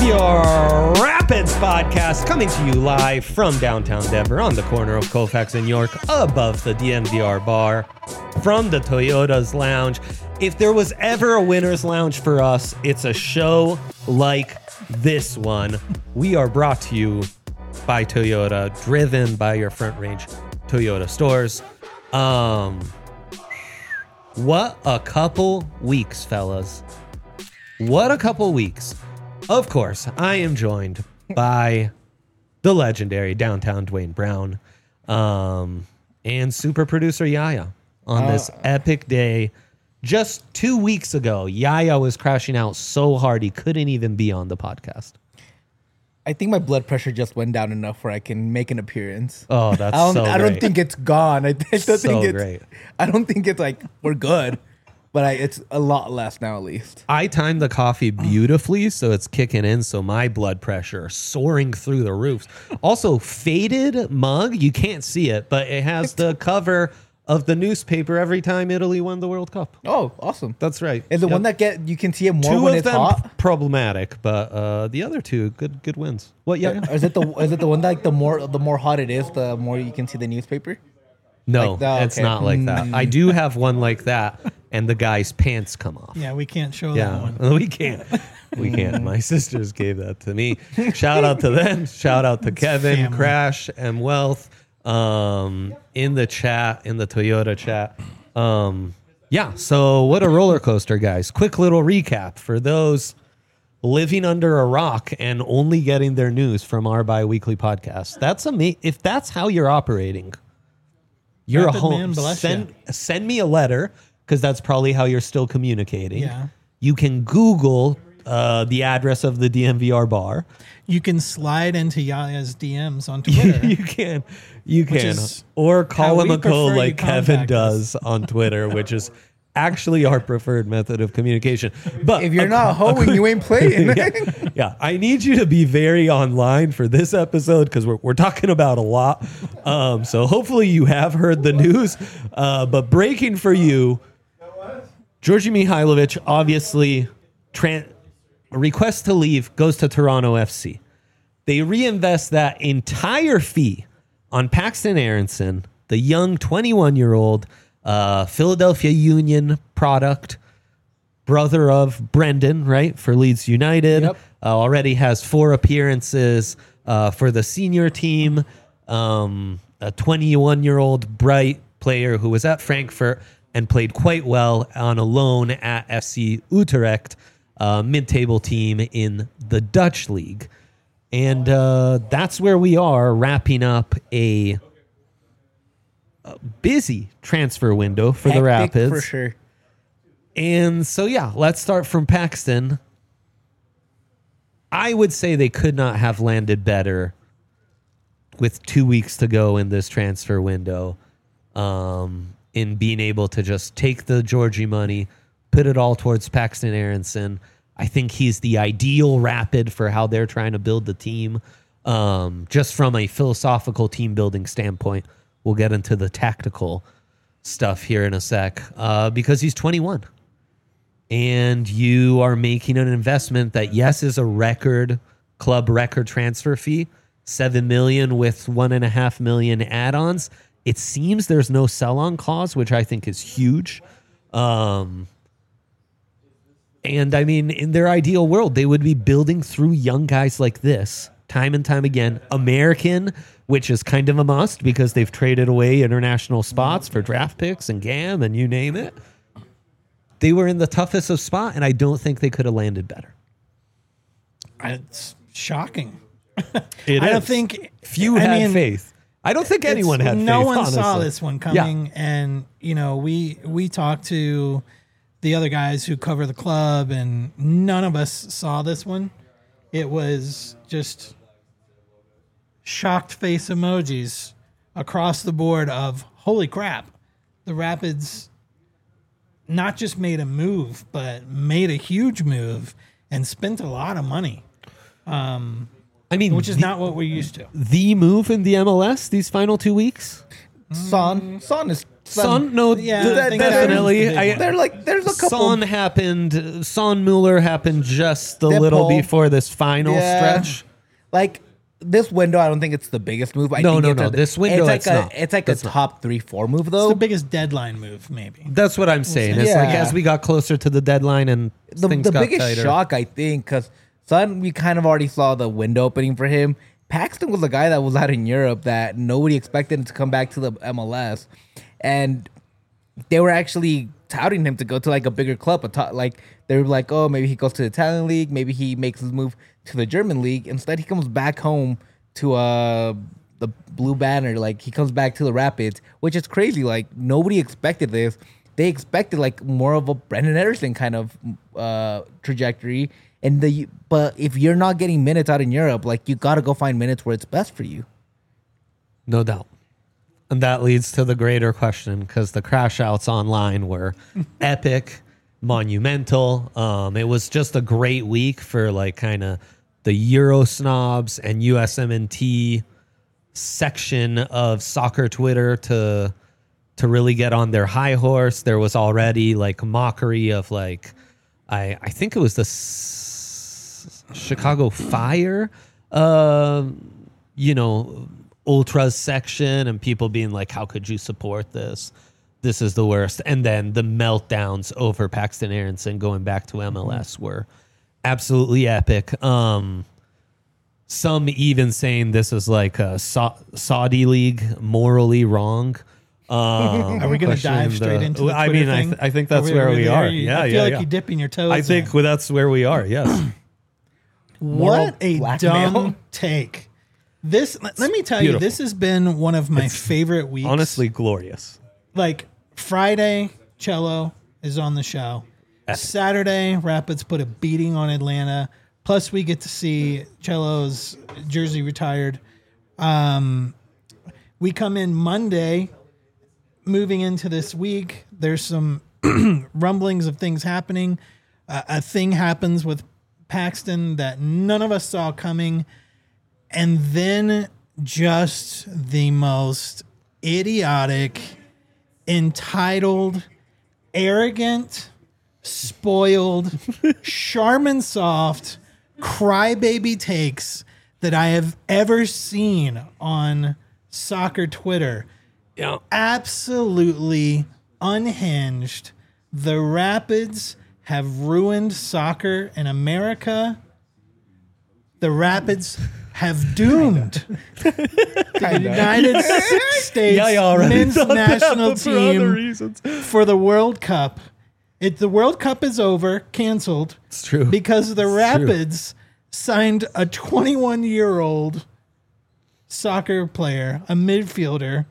Your Rapids podcast coming to you live from downtown Denver on the corner of Colfax and York above the DNVR bar from the Toyota's Lounge. If there was ever a winner's lounge for us, it's a show like this one. We are brought to you by Toyota, driven by your Front Range Toyota stores. What a couple weeks, fellas. What a couple weeks. Of course, I am joined by the legendary downtown Dwayne Brown and super producer Yaya on this epic day. Just 2 weeks ago, Yaya was crashing out so hard he couldn't even be on the podcast. I think my blood pressure just went down enough where I can make an appearance. Oh, that's so great. I don't think it's gone. I don't think it's great. I don't think it's like we're good, but it's a lot less now at least. I timed the coffee beautifully, so it's kicking in, so my blood pressure soaring through the roofs. Also, faded mug, you can't see it, but it has the cover of the newspaper every time Italy won the World Cup. Oh, awesome. That's right. Is the one that you can see it more two when of it's them hot? Problematic, but the other two good wins. What? Yeah. Or is it the one that like the more hot it is, the more you can see the newspaper? No, Like it's not like that. I do have one like that, and the guy's pants come off. Yeah, we can't show that one. We can't. We can't. My sisters gave that to me. Shout out to them. Shout out to Kevin, family. Crash, and Wealth in the chat, in the Toyota chat. Yeah, so what a roller coaster, guys. Quick little recap for those living under a rock and only getting their news from our bi-weekly podcast. That's amazing. If that's how you're operating, you're Rapid a home. man, bless Send me a letter, because that's probably how you're still communicating. Yeah. You can Google the address of the DNVR bar. You can slide into Yaya's DMs on Twitter. You can, is or how call him we a code prefer like you Kevin contact us. does on Twitter, which is actually our preferred method of communication. But If you're not hoeing, you ain't playing. yeah, I need you to be very online for this episode because we're talking about a lot. So hopefully you have heard the news. But breaking for you, Georgi Mihailovic obviously request to leave, goes to Toronto FC. They reinvest that entire fee on Paxton Aronson, the young 21-year-old Philadelphia Union product, brother of Brendan, right, for Leeds United. Yep. Already has 4 appearances for the senior team. A 21-year-old bright player who was at Frankfurt and played quite well on a loan at FC Utrecht, mid-table team in the Dutch league. And that's where we are, wrapping up a busy transfer window for the Hectic Rapids. for sure. And so, yeah, let's start from Paxton. I would say they could not have landed better with 2 weeks to go in this transfer window, in being able to just take the Georgie money, put it all towards Paxton Aronson. I think he's the ideal Rapid for how they're trying to build the team, just from a philosophical team building standpoint. We'll get into the tactical stuff here in a sec, because he's 21. And you are making an investment that, yes, is a club record transfer fee, $7 million with $1.5 million add-ons. It seems there's no sell-on clause, which I think is huge. And I mean, in their ideal world, they would be building through young guys like this time and time again. American, which is kind of a must because they've traded away international spots for draft picks and GAM and you name it. They were in the toughest of spot, and I don't think they could have landed better. It's shocking. It I is. don't think Few had faith. I don't think anyone had faith. No one honestly. saw this one coming, and we talked to the other guys who cover the club, and none of us saw this one. It was just shocked face emojis across the board of holy crap. The Rapids not just made a move, but made a huge move and spent a lot of money. I mean, which is not what we're used to. The move in the MLS these final 2 weeks. Son is Son, no, Yeah, th- I think that definitely. was the big one. There's a couple. Son happened. Son Mueller happened just a Dip little hole. before this final Yeah. stretch. Like this window, I don't think it's the biggest move. I No, think no, it's no. a- This window, it's like it's a, not. It's like It's a not. top 3-4 move It's though. the biggest deadline move, maybe. That's what I'm saying. It's Yeah. like as we got closer to the deadline and The things got biggest tighter. shock, I think, because Son, we kind of already saw the window opening for him. Paxton was a guy that was out in Europe that nobody expected him to come back to the MLS, and they were actually touting him to go to like a bigger club. Like they were like, oh, maybe he goes to the Italian league, maybe he makes his move to the German league. Instead, he comes back home to the Blue Banner. Like he comes back to the Rapids, which is crazy. Like nobody expected this. They expected like more of a Brendan Ederson kind of trajectory. But if you're not getting minutes out in Europe, like you got to go find minutes where it's best for you. No doubt. And that leads to the greater question because the crash outs online were epic, monumental. It was just a great week for like kind of the Euro snobs and USMNT section of soccer Twitter to really get on their high horse. There was already like mockery of like, I think it was the Chicago Fire, ultras section and people being like, how could you support this? This is the worst. And then the meltdowns over Paxton Aronson going back to MLS were absolutely epic. Some even saying this is like a Saudi league morally wrong. Are we going to dive straight into the Twitter thing? I think that's Are where we there? are. I feel like you're dipping your toes I think in. that's where we are. Yes. What a blackmail. dumb take. Let me tell you, beautiful. this has been one of my favorite weeks. Honestly, glorious. Like Friday, Cello is on the show. Saturday, Rapids put a beating on Atlanta. Plus, we get to see Cello's jersey retired. We come in Monday, moving into this week. There's some rumblings of things happening. A thing happens with Paxton that none of us saw coming. And then just the most idiotic, entitled, arrogant, spoiled, Charmin soft, crybaby takes that I have ever seen on soccer Twitter. Yeah. Absolutely unhinged. The Rapids have ruined soccer in America. The Rapids have doomed the United States men's national team for the World Cup. The World Cup is over, canceled. It's true. Because the It's Rapids signed a 21-year-old soccer player, a midfielder,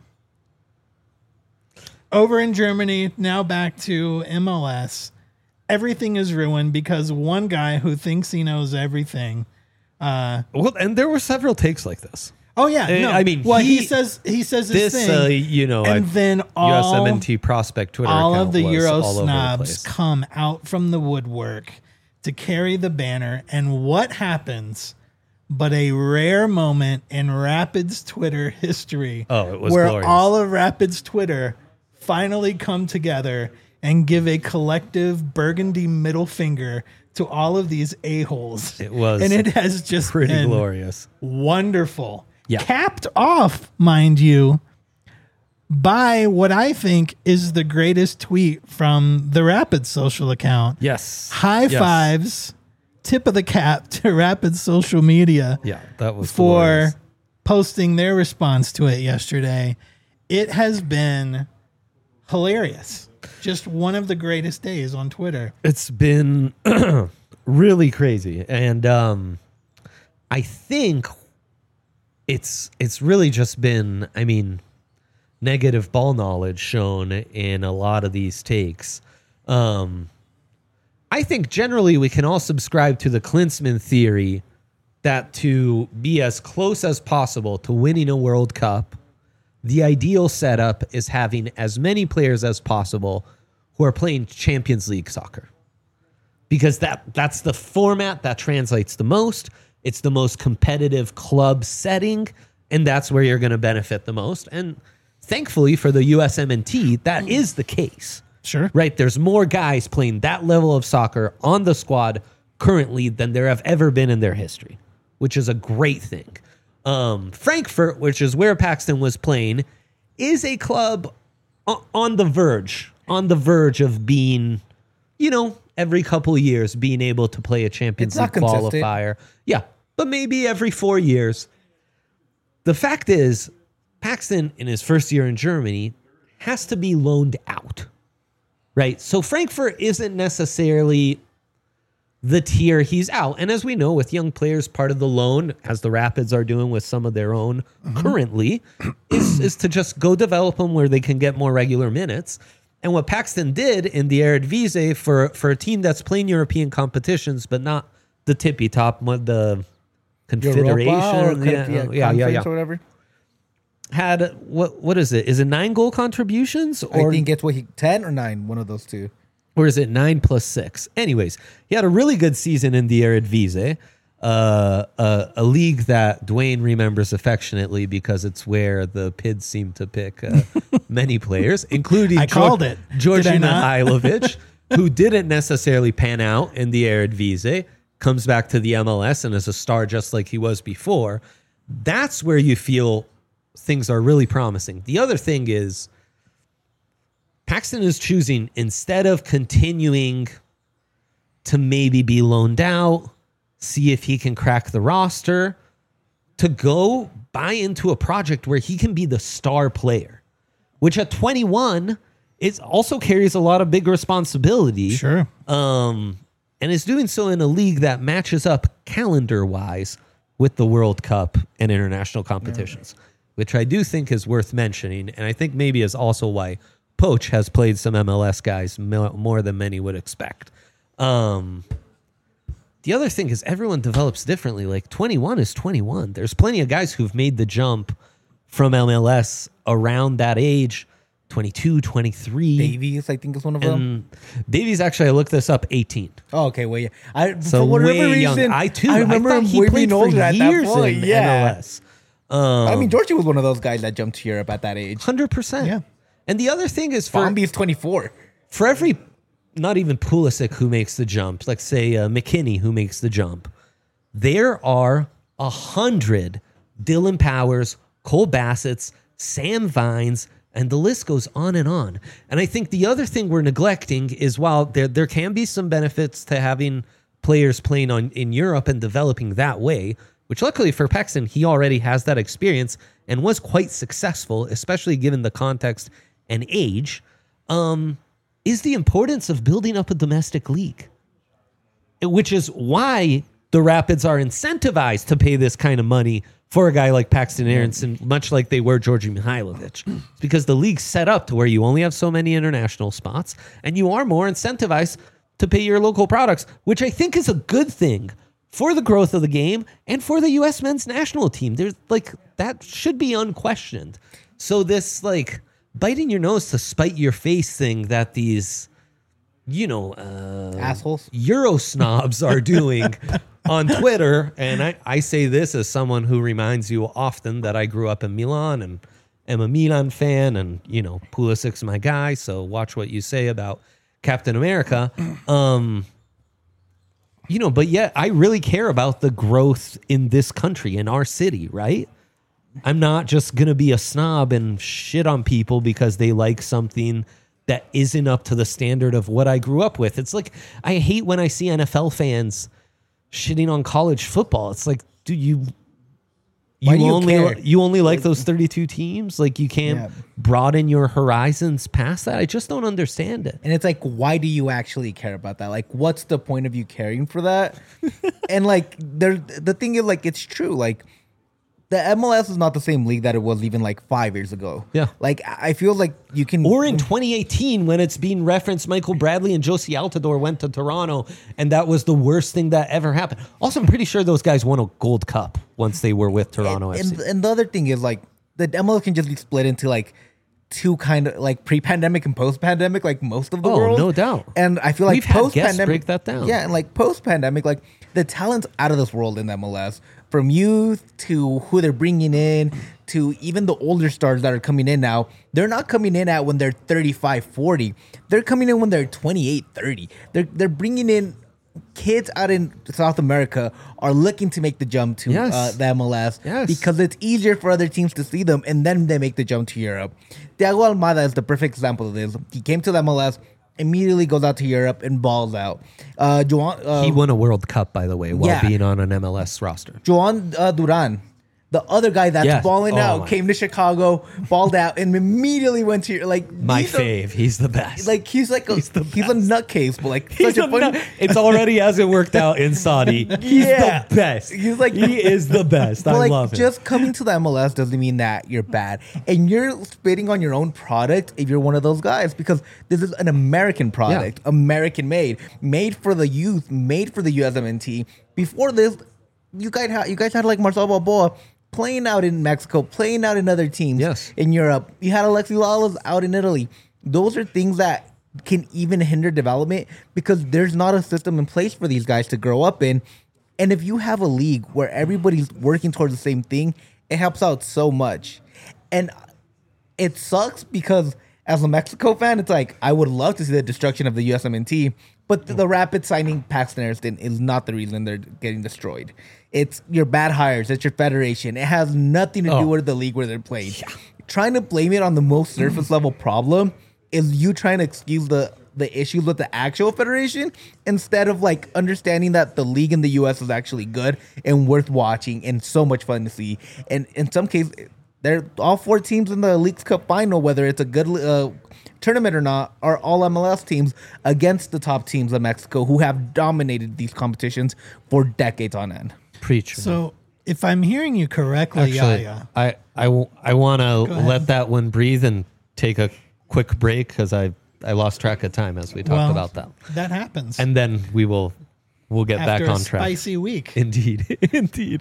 over in Germany, now back to MLS. Everything is ruined because one guy who thinks he knows everything. Well, and there were several takes like this. Oh yeah, no. I mean, well, he says this This, thing, and then all USMNT prospect Twitter all account of the was Euro all over the snobs place. come out from the woodwork to carry the banner, and what happens? But a rare moment in Rapids Twitter history. Oh, it was where glorious. all of Rapids Twitter finally come together and give a collective burgundy middle finger to all of these a-holes. It was and it has just pretty been glorious. wonderful. Yeah. Capped off, mind you, by what I think is the greatest tweet from the Rapids social account. Yes. High Yes. fives, tip of the cap to Rapids social media Yeah, that was for glorious. posting their response to it yesterday. It has been hilarious. Just one of the greatest days on Twitter. It's been really crazy, and I think it's really just been, I mean, negative ball knowledge shown in a lot of these takes. I think generally we can all subscribe to the Klinsmann theory that to be as close as possible to winning a World Cup, the ideal setup is having as many players as possible who are playing Champions League soccer. Because that's the format that translates the most. It's the most competitive club setting, and that's where you're going to benefit the most. And thankfully for the USMNT, that is the case. Sure. Right? There's more guys playing that level of soccer on the squad currently than there have ever been in their history, which is a great thing. Frankfurt, which is where Paxton was playing, is a club on the verge of being, every couple of years being able to play a Champions It's League not consistent. qualifier. Yeah, but maybe every 4 years. The fact is, Paxton, in his first year in Germany, has to be loaned out, right? So Frankfurt isn't necessarily the tier he's out. And as we know, with young players, part of the loan, as the Rapids are doing with some of their own currently, is to just go develop them where they can get more regular minutes. And what Paxton did in the Eredivisie for a team that's playing European competitions, but not the tippy top, the Confederation, Conference or whatever. had what is it? Is it 9 goal contributions? Or I think it's 10 or 9, one of those two. Or is it 9 plus 6? Anyways, he had a really good season in the Eredivisie, a league that Dwayne remembers affectionately because it's where the PIDs seem to pick many players, including I called it. Georgi Did I not? Mihailovic, who didn't necessarily pan out in the Eredivisie, comes back to the MLS and is a star just like he was before. That's where you feel things are really promising. The other thing is, Paxton is choosing, instead of continuing to maybe be loaned out, see if he can crack the roster, to go buy into a project where he can be the star player, which at 21, it also carries a lot of big responsibility. Sure. And is doing so in a league that matches up calendar-wise with the World Cup and international competitions, which I do think is worth mentioning, and I think maybe is also why Poach has played some MLS guys more than many would expect. The other thing is everyone develops differently. Like 21 is 21. There's plenty of guys who've made the jump from MLS around that age, 22, 23. Davies, I think, is one of them. And Davies, actually, I looked this up, 18. Oh, okay. Well, yeah. So for whatever way young. reason, I remember thought him he way played being for older at years that point. in Yeah. MLS. I mean, Georgie was one of those guys that jumped to Europe at that age. 100%. Yeah. And the other thing is for Bombi's 24. every, not even Pulisic who makes the jump, like say McKinney who makes the jump, there are 100 Dylan Powers, Cole Bassett's, Sam Vines, and the list goes on and on. And I think the other thing we're neglecting is while there can be some benefits to having players playing in Europe and developing that way, which luckily for Paxton, he already has that experience and was quite successful, especially given the context and age, is the importance of building up a domestic league, which is why the Rapids are incentivized to pay this kind of money for a guy like Paxton Aronson, much like they were Georgi Mihailovic. It's because the league's set up to where you only have so many international spots, and you are more incentivized to pay your local products, which I think is a good thing for the growth of the game and for the U.S. men's national team. There's that should be unquestioned. So this biting your nose to spite your face thing that these, Assholes. Euro snobs are doing on Twitter. And I say this as someone who reminds you often that I grew up in Milan and am a Milan fan, and, Pulisic's my guy. So watch what you say about Captain America. But yet I really care about the growth in this country, in our city, right? I'm not just going to be a snob and shit on people because they like something that isn't up to the standard of what I grew up with. It's like, I hate when I see NFL fans shitting on college football. It's like, dude, you only like those 32 teams? Like, you can't broaden your horizons past that? I just don't understand it. And it's like, why do you actually care about that? Like, what's the point of you caring for that? And the thing is, it's true. The MLS is not the same league that it was even 5 years ago. Yeah. I feel like you can. Or in 2018, when it's being referenced, Michael Bradley and Josie Altidore went to Toronto, and that was the worst thing that ever happened. Also, I'm pretty sure those guys won a Gold Cup once they were with Toronto FC. And the other thing is, the MLS can just be split into to kind of like pre-pandemic and post-pandemic, like most of the world. No doubt. And I feel like We've had guests post-pandemic, break that down. Yeah, and like post-pandemic, like the talent's out of this world in the MLS. From youth to who they're bringing in to even the older stars that are coming in now, they're not coming in at when they're 35, 40. They're coming in when they're 28, 30. They're bringing in kids out in South America are looking to make the jump to Yes. the MLS Yes. because it's easier for other teams to see them, and then they make the jump to Europe. Thiago Almada is the perfect example of this. He came to the MLS, immediately goes out to Europe and balls out. He won a World Cup, by the way, while yeah. being on an MLS roster. Joan Duran, the other guy that's Yes. balling Oh out, my. came to Chicago, balled out, and immediately went to like My he's a- fave. He's the best. Like he's a nutcase, but like He's such a funny. It's already hasn't worked out in Saudi. He's Yeah. the best. He's like- he is the best. But I like, love him. just coming to the MLS doesn't mean that you're bad, and you're spitting on your own product if you're one of those guys, because this is an American product, American made for the youth, made for the USMNT. Before this, you guys had like Marcelo Balboa playing out in Mexico, playing out in other teams Yes. in Europe. You had Alexi Lalas out in Italy. Those are things that can even hinder development because there's not a system in place for these guys to grow up in. And if you have a league where everybody's working towards the same thing, it helps out so much. And it sucks because as a Mexico fan, it's like, I would love to see the destruction of the USMNT, but the Rapid signing Paxton Ariston is not the reason they're getting destroyed. It's your bad hires. It's your federation. It has nothing to do with the league where they're playing. Trying to blame it on the most surface level problem is you trying to excuse the issues with the actual federation instead of like understanding that the league in the US is actually good and worth watching and so much fun to see. And in some cases, they're all four teams in the Leagues Cup final, whether it's a good tournament or not, are all MLS teams against the top teams of Mexico who have dominated these competitions for decades on end. Preach. So if I'm hearing you correctly, Actually, Yaya, I want to ahead. let that one breathe and take a quick break because I lost track of time as we talked well, about that. that happens. And then we'll get after back a on track. spicy week. Indeed. Indeed.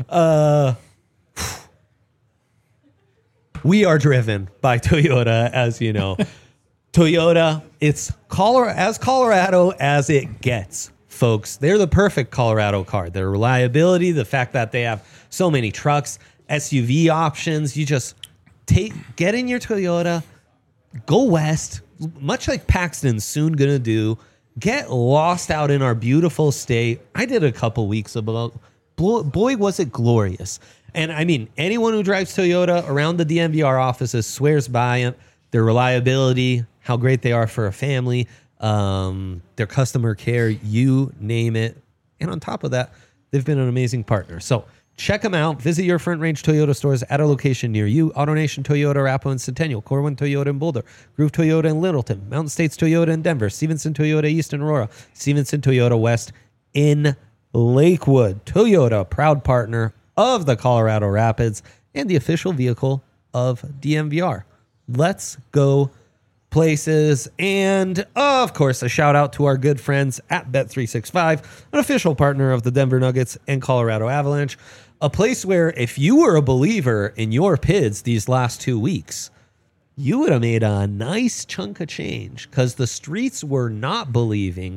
We are driven by Toyota, as you know. Toyota, it's as Colorado as it gets, folks. They're the perfect Colorado car. Their reliability, the fact that they have so many trucks, SUV options. You just get in your Toyota, go west, much like Paxton's soon going to do. Get lost out in our beautiful state. I did a couple weeks ago. Boy, was it glorious. And I mean, anyone who drives Toyota around the DMVR offices swears by it. Their reliability, how great they are for a family, their customer care, you name it. And on top of that, they've been an amazing partner. So check them out. Visit your Front Range Toyota stores at a location near you. AutoNation Toyota, Arapahoe and Centennial, Corwin Toyota in Boulder, Groove Toyota in Littleton, Mountain States Toyota in Denver, Stevenson Toyota East in Aurora, Stevenson Toyota West in Lakewood. Toyota, proud partner of the Colorado Rapids and the official vehicle of DMVR. Let's go places. And of course, a shout out to our good friends at Bet365, an official partner of the Denver Nuggets and Colorado Avalanche. A place where if you were a believer in your PIDs these last 2 weeks, you would have made a nice chunk of change because the streets were not believing.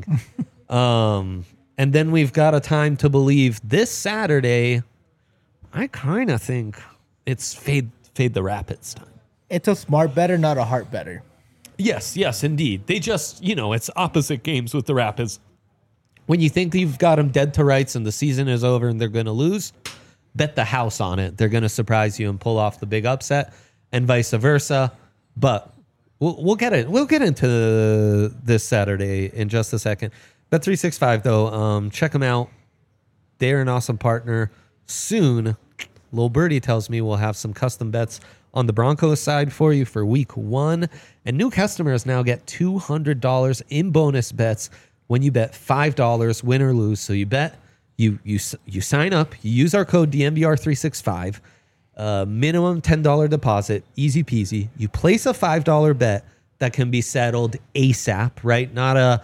And then we've got a time to believe this Saturday. I kind of think it's fade the Rapids time. It's a smart better, not a heart better. Yes, indeed. They just, it's opposite games with the Rapids. When you think you've got them dead to rights and the season is over and they're going to lose, bet the house on it. They're going to surprise you and pull off the big upset and vice versa. But we'll get it. We'll get into this Saturday in just a second. Bet365, though, check them out. They're an awesome partner. Soon, Lil Birdie tells me we'll have some custom bets on the Broncos side for you for week 1. And new customers now get $200 in bonus bets when you bet $5, win or lose. So you bet, you sign up, you use our code DMVR365, minimum $10 deposit, easy peasy. You place a $5 bet that can be settled ASAP, right? Not a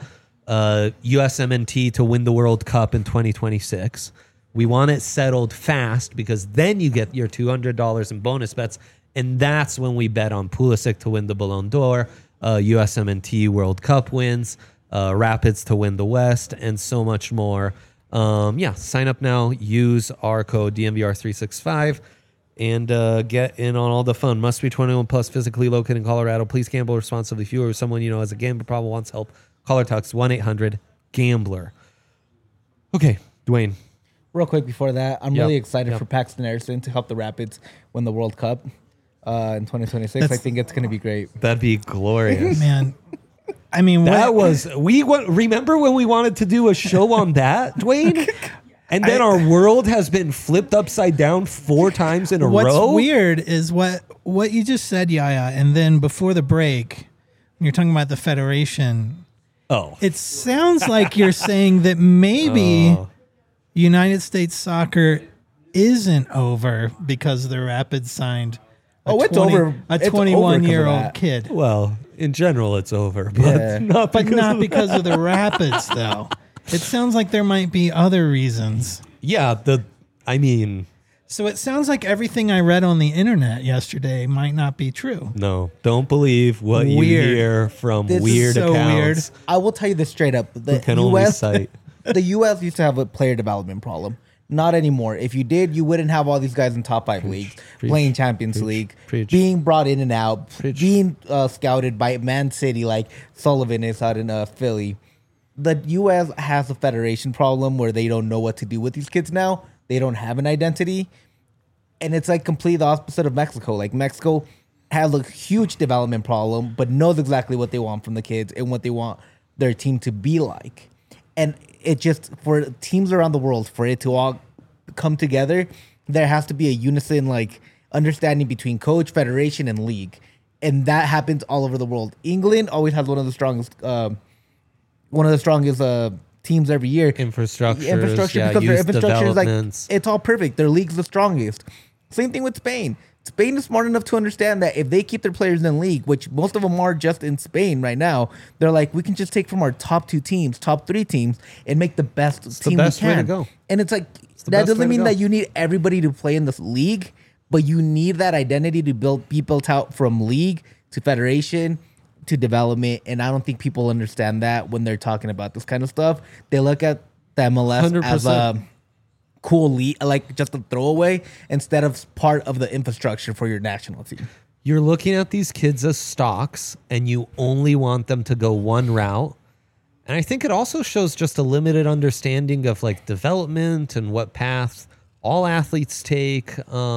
USMNT to win the World Cup in 2026. We want it settled fast because then you get your $200 in bonus bets And that's when we bet on Pulisic to win the Ballon d'Or, USMNT World Cup wins, Rapids to win the West, and so much more. Sign up now. Use our code DMVR365 and get in on all the fun. Must be 21 plus, physically located in Colorado. Please gamble responsibly. If you or someone you know has a gambling problem wants help, call or text 1-800-GAMBLER. Okay, Dwayne. Real quick before that, I'm really excited for Paxton Anderson to help the Rapids win the World Cup in 2026. I think it's going to be great. That'd be glorious. Man, I mean, Remember when we wanted to do a show on that, Dwayne? And then our world has been flipped upside down 4 times in a row. What's weird is what you just said, Yaya, and then before the break, when you're talking about the Federation, it sounds like you're saying that maybe United States soccer isn't over because the Rapids signed a 21-year-old kid. Well, in general, it's over, but not because of the Rapids, though. It sounds like there might be other reasons. Yeah, So it sounds like everything I read on the internet yesterday might not be true. No, don't believe what you hear from weird accounts. Weird. I will tell you this straight up. The U.S. used to have a player development problem. Not anymore. If you did, you wouldn't have all these guys in top 5 leagues playing Champions League, being brought in and out, being scouted by Man City like Sullivan is out in Philly. The U.S. has a federation problem where they don't know what to do with these kids now. They don't have an identity. And it's like completely the opposite of Mexico. Like Mexico has a huge development problem, but knows exactly what they want from the kids and what they want their team to be like. And it just, for teams around the world, for it to all come together, there has to be a unison, like, understanding between coach, federation, and league. And that happens all over the world. England always has one of the strongest teams every year. Infrastructure, because their infrastructure is like, it's all perfect. Their league's the strongest. Same thing with Spain. Spain is smart enough to understand that if they keep their players in league, which most of them are just in Spain right now, they're like, we can just take from our top 2 teams, top 3 teams, and make the best team we can. Way to go. And it's like, that doesn't mean that you need everybody to play in this league, but you need that identity to be built out from league to federation to development. And I don't think people understand that when they're talking about this kind of stuff. They look at the MLS 100%. As a cool league, like just a throwaway, instead of part of the infrastructure for your national team. You're looking at these kids as stocks, and you only want them to go one route. And I think it also shows just a limited understanding of like development and what paths all athletes take.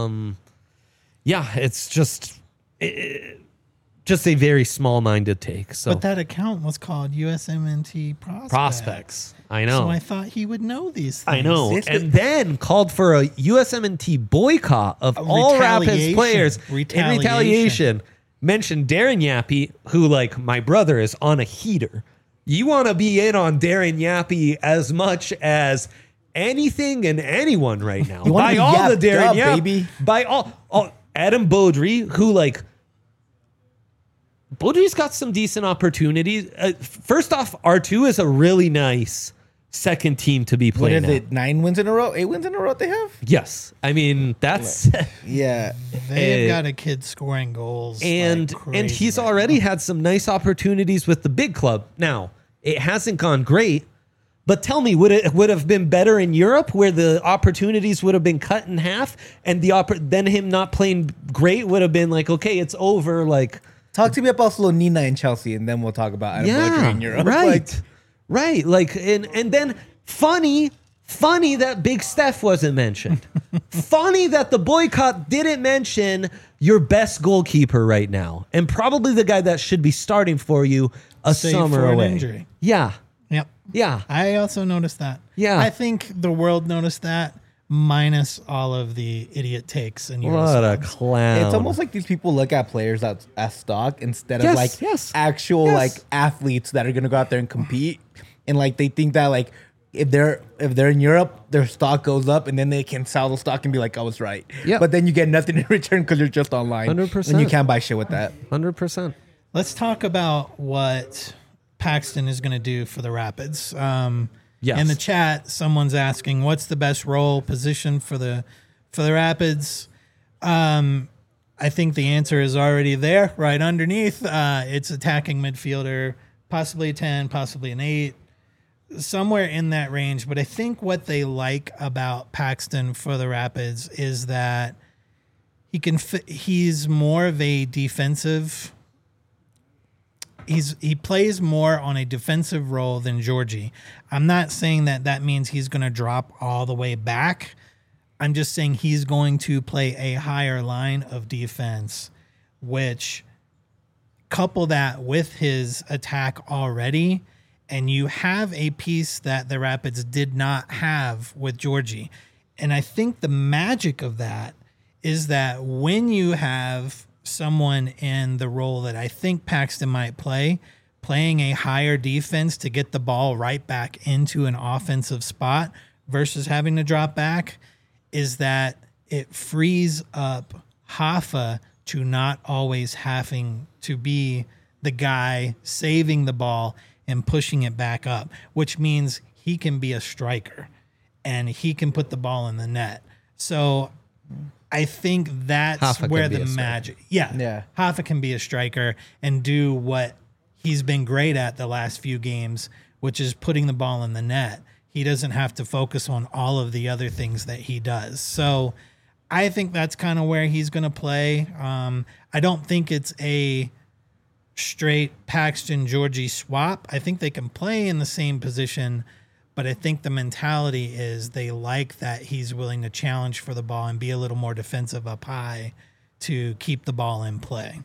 It's just a very small-minded take. So, but that account was called USMNT Prospects. I know. So I thought he would know these things. I know. And then called for a USMNT boycott of all Rapids players in retaliation. Mentioned Darren Yappy, who, like, my brother is on a heater. You want to be in on Darren Yappy as much as anything and anyone right now. By all the Darren Yappy, baby. By all Adam Beaudry, who, like, Beaudry's got some decent opportunities. First off, R2 is a really nice second team to be playing. What is it? 9 wins in a row? 8 wins in a row they have? Yes. I mean, that's... yeah. They've got a kid scoring goals. And he's already had some nice opportunities with the big club. Now, it hasn't gone great, but tell me, would it have been better in Europe where the opportunities would have been cut in half and then him not playing great would have been like, okay, it's over, like... Talk to me about Slonina and Chelsea, and then we'll talk about Adam Beaudry in Europe. Right. Like, and then funny that Big Steph wasn't mentioned. Funny that the boycott didn't mention your best goalkeeper right now, and probably the guy that should be starting for you summer away. Injury. Yeah. Yep. Yeah. I also noticed that. Yeah. I think the world noticed that. Minus all of the idiot takes and what a clown. It's almost like these people look at players as stock instead of actual like athletes that are gonna go out there and compete. And like they think that like if they're in Europe, their stock goes up and then they can sell the stock and be like, I was right. Yep. But then you get nothing in return because you're just online. 100%. And you can't buy shit with that. 100%. Let's talk about what Paxton is gonna do for the Rapids. Yes. In the chat, someone's asking, "What's the best role position for the Rapids?" I think the answer is already there, right underneath. It's attacking midfielder, possibly a 10, possibly an 8, somewhere in that range. But I think what they like about Paxton for the Rapids is that he's more of a defensive. He plays more on a defensive role than Georgie. I'm not saying that means he's going to drop all the way back. I'm just saying he's going to play a higher line of defense, which couple that with his attack already, and you have a piece that the Rapids did not have with Georgie. And I think the magic of that is that when you have someone in the role that I think Paxton might play, playing a higher defense to get the ball right back into an offensive spot versus having to drop back, is that it frees up Hoffa to not always having to be the guy saving the ball and pushing it back up, which means he can be a striker and he can put the ball in the net. So I think that's Hoffa where can be the a striker. magic. Yeah. Hoffa can be a striker and do what he's been great at the last few games, which is putting the ball in the net. He doesn't have to focus on all of the other things that he does. So I think that's kind of where he's going to play. I don't think it's a straight Paxton Georgie swap. I think they can play in the same position, but I think the mentality is they like that he's willing to challenge for the ball and be a little more defensive up high to keep the ball in play.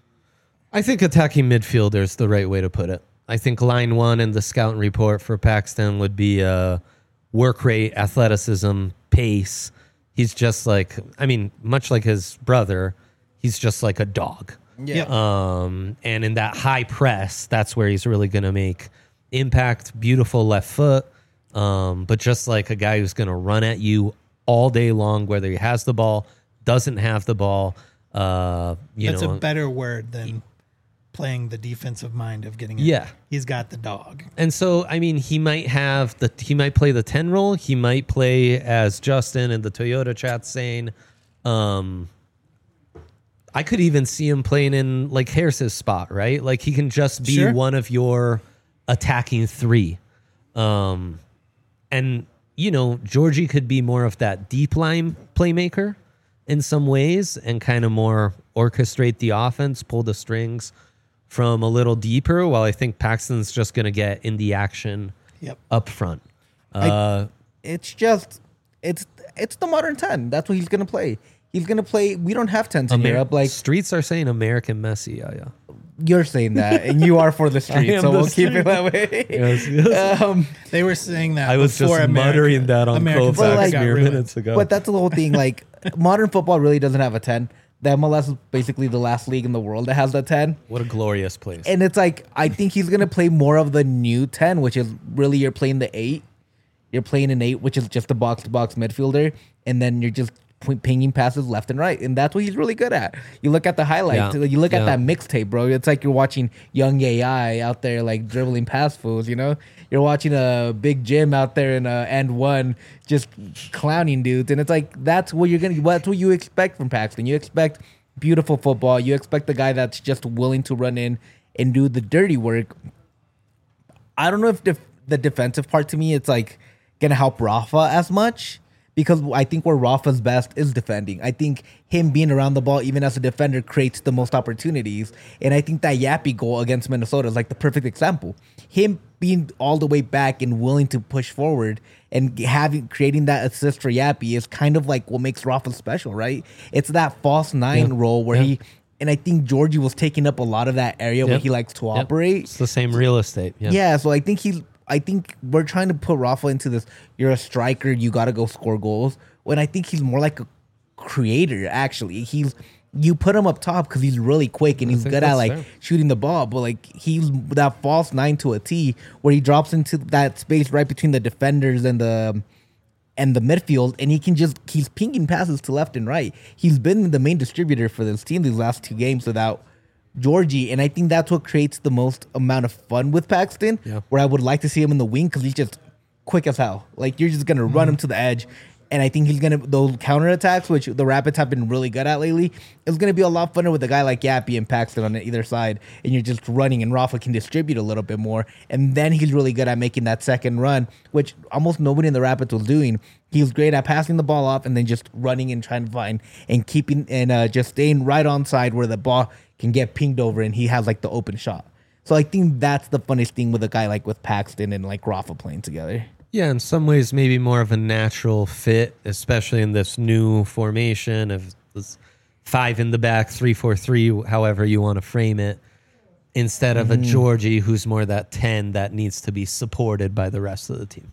I think attacking midfielder is the right way to put it. I think line one in the scouting report for Paxton would be work rate, athleticism, pace. He's just like, much like his brother, he's just like a dog. Yeah. And in that high press, that's where he's really going to make impact. Beautiful left foot, but just like a guy who's going to run at you all day long, whether he has the ball, doesn't have the ball. That's a better word than playing the defensive mind of getting it. Yeah. He's got the dog. And so, he might play the 10 role. He might play, as Justin and the Toyota chat saying, I could even see him playing in like Harris's spot, right? Like he can just be one of your attacking three. And Georgie could be more of that deep line playmaker in some ways and kind of more orchestrate the offense, pull the strings from a little deeper, while I think Paxton's just going to get in the action up front. It's the modern 10. That's what he's going to play. He's going to play. We don't have 10s in Europe. Like streets are saying American Messi. Yeah. You're saying that, and you are for the streets, so we'll keep it that way. Yes. They were saying that I was before just muttering that on Kovacs mere minutes ago. But that's the whole thing. Like, modern football really doesn't have a 10. The MLS is basically the last league in the world that has the 10. What a glorious place. And it's like, I think he's going to play more of the new 10, which is really you're playing the 8. You're playing an 8, which is just a box-to-box midfielder. And then you're just pinging passes left and right. And that's what he's really good at. You look at the highlights. Yeah. You look at that mixtape, bro. It's like you're watching young AI out there like dribbling past fools, You're watching a big Jim out there in and one just clowning dudes. And it's like, that's what you expect from Paxton. You expect beautiful football. You expect the guy that's just willing to run in and do the dirty work. I don't know if the defensive part, to me, it's like going to help Rafa as much, because I think where Rafa's best is defending. I think him being around the ball, even as a defender, creates the most opportunities. And I think that Yappy goal against Minnesota is like the perfect example. Him being all the way back and willing to push forward and creating that assist for Yappy is kind of like what makes Rafa special, right? It's that false nine role where and I think Georgie was taking up a lot of that area where he likes to operate. It's the same real estate. Yeah, so I think we're trying to put Rafa into this, you're a striker, you got to go score goals. When I think he's more like a creator, actually. You put him up top because he's really quick and he's good at like shooting the ball, but like he's that false 9 to a T where he drops into that space right between the defenders and the midfield, and he's pinging passes to left and right. He's been the main distributor for this team these last 2 games without Georgie, and I think that's what creates the most amount of fun with Paxton, where I would like to see him in the wing because he's just quick as hell. Like, you're just going to run him to the edge, And I think he's gonna those counterattacks, which the Rapids have been really good at lately, it's gonna be a lot funner with a guy like Yappy and Paxton on either side, and you're just running, and Rafa can distribute a little bit more, and then he's really good at making that second run, which almost nobody in the Rapids was doing. He was great at passing the ball off and then just running and trying to find and keeping and just staying right on side where the ball can get pinged over, and he has like the open shot. So I think that's the funniest thing with a guy like with Paxton and like Rafa playing together. Yeah, in some ways, maybe more of a natural fit, especially in this new formation of this 5 in the back, 3-4-3, however you want to frame it, instead of a Georgie who's more that 10 that needs to be supported by the rest of the team.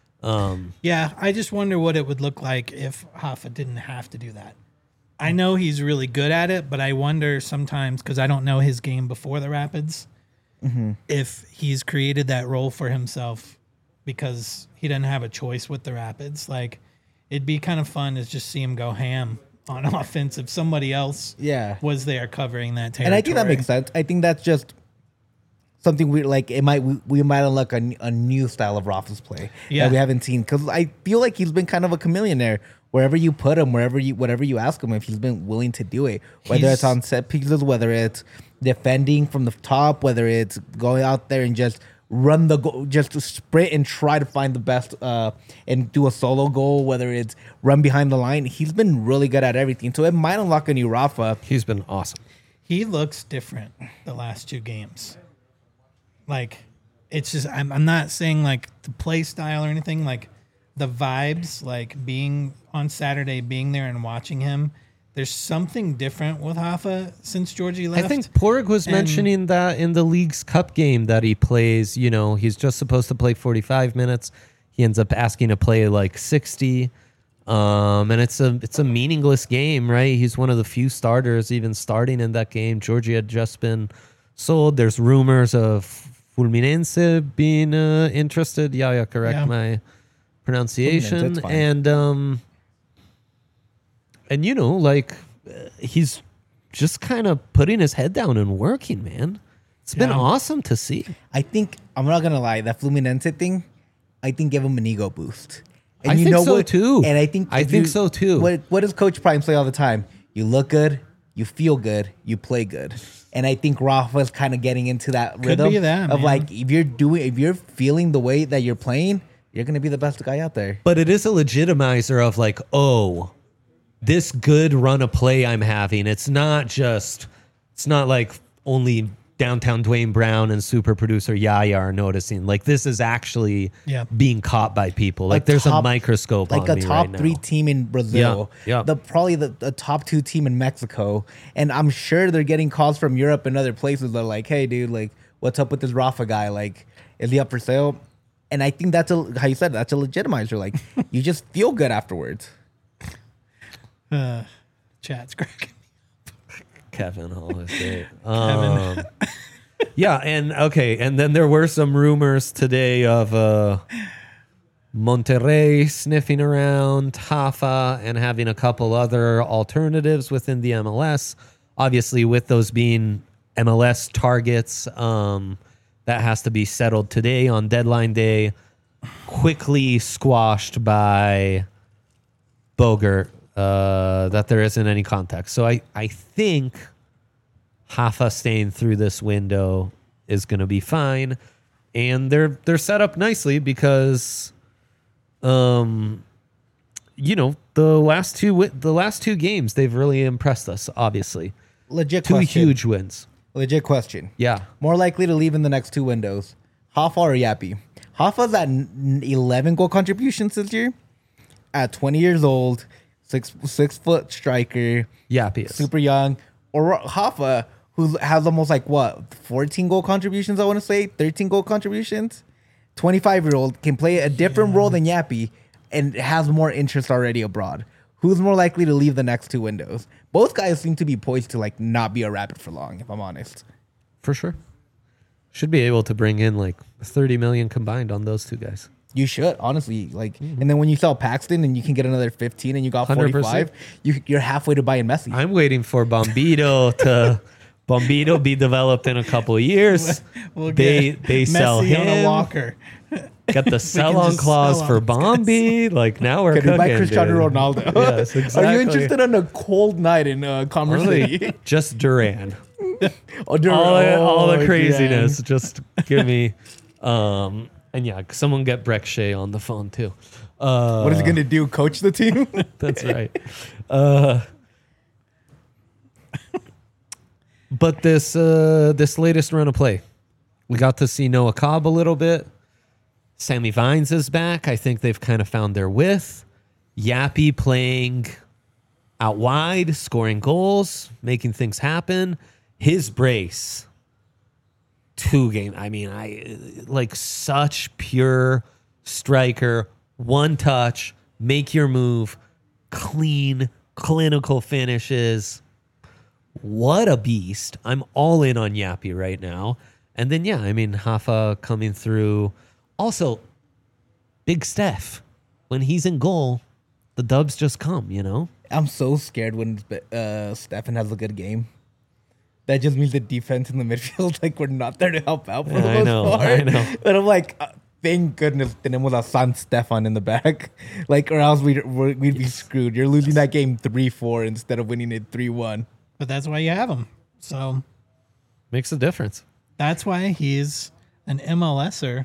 Yeah, I just wonder what it would look like if Hoffa didn't have to do that. I know he's really good at it, but I wonder sometimes, because I don't know his game before the Rapids, if he's created that role for himself because he doesn't have a choice with the Rapids. Like, it'd be kind of fun to just see him go ham on offense if somebody else was there covering that territory. And I think that makes sense. I think that's just something we like. We might unlock a new style of Rafa's play that we haven't seen, because I feel like he's been kind of a chameleon there. Wherever you put him, whatever you ask him, if he's been willing to do it, whether it's on set pieces, whether it's defending from the top, whether it's going out there and just run the goal, just to sprint and try to find the best and do a solo goal, whether it's run behind the line. He's been really good at everything. So it might unlock a new Rafa. He's been awesome. He looks different the last 2 games. Like, it's just, I'm not saying like the play style or anything, like the vibes, like being on Saturday, being there and watching him. There's something different with Hoffa since Georgie left. I think Porg was mentioning that in the League's Cup game that he plays, you know, he's just supposed to play 45 minutes. He ends up asking to play like 60. And it's a meaningless game, right? He's one of the few starters even starting in that game. Georgie had just been sold. There's rumors of Fulminense being interested. Yeah, correct my pronunciation. And you know, like he's just kind of putting his head down and working, man. It's been awesome to see. I think, I'm not gonna lie, that Fluminense thing, I think give him an ego boost. And I think so too. And I think so too. What does Coach Prime say all the time? You look good, you feel good, you play good. And I think Rafa's kind of getting into that rhythm of like, if you're feeling the way that you're playing, you're gonna be the best guy out there. But it is a legitimizer of like, oh, this good run of play I'm having. It's not like only downtown Dwayne Brown and super producer Yaya are noticing. Like, this is actually being caught by people. Like, there's a microscope on me right now. Like a top 3 team in Brazil. Yeah. Probably the top 2 team in Mexico. And I'm sure they're getting calls from Europe and other places that are like, hey, dude, like, what's up with this Rafa guy? Like, is he up for sale? And I think that's how you said, that's a legitimizer. Like, you just feel good afterwards. Chat's cracking. Kevin Hall is great. Yeah, and then there were some rumors today of Monterrey sniffing around Hoffa and having a couple other alternatives within the MLS. Obviously, with those being MLS targets, that has to be settled today on deadline day. Quickly squashed by Bogert. That there isn't any context. So I think Hoffa staying through this window is going to be fine, and they're set up nicely because, you know, the last two games they've really impressed us. Obviously, legit two question. Huge wins. Legit question. Yeah, more likely to leave in the next 2 windows, Hoffa or Yappy? Hoffa's at 11 goal contributions this year, at 20 years old. 6-foot striker. Yappy is super young. Or Hoffa, who has almost like 14 goal contributions, I want to say, 13 goal contributions. 25-year-old can play a different role than Yappy and has more interest already abroad. Who's more likely to leave the next 2 windows? Both guys seem to be poised to like not be a Rapid for long, if I'm honest. For sure. Should be able to bring in like 30 million combined on those 2 guys. You should, honestly. Like, and then when you sell Paxton and you can get another 15 and you got 45, you're halfway to buying Messi. I'm waiting for Bombito to be developed in a couple of years. We'll get they sell Messi him. on a walker. Got the sell-on just clause sell for on these guys. Bombi. Like now we're Can cooking, we buy Cristiano dude. Ronaldo? Yes, Are exactly. you interested in a cold night in Commerce City? Just Duran. Oh, dude, all the oh, craziness. damn. Just give me. And yeah, someone get Breck Shea on the phone too. What is he gonna do? Coach the team? That's right. But this latest run of play, we got to see Noah Cobb a little bit. Sammy Vines is back. I think they've kind of found their width. Yappy playing out wide, scoring goals, making things happen. His brace, 2 game. I mean, I like such pure striker, one touch, make your move, clean, clinical finishes. What a beast. I'm all in on Yappy right now. And then, yeah, I mean, Hafa coming through. Also, Big Steph. When he's in goal, the dubs just come, you know? I'm so scared when Stefan has a good game. That just means the defense in the midfield, like, we're not there to help out for the I most know, part. I know. But I'm like, thank goodness tenemos a San Stefan in the back. Like, or else we'd be screwed. You're losing that game 3-4 instead of winning it 3-1. But that's why you have him. So Makes a difference. that's why he's an MLSer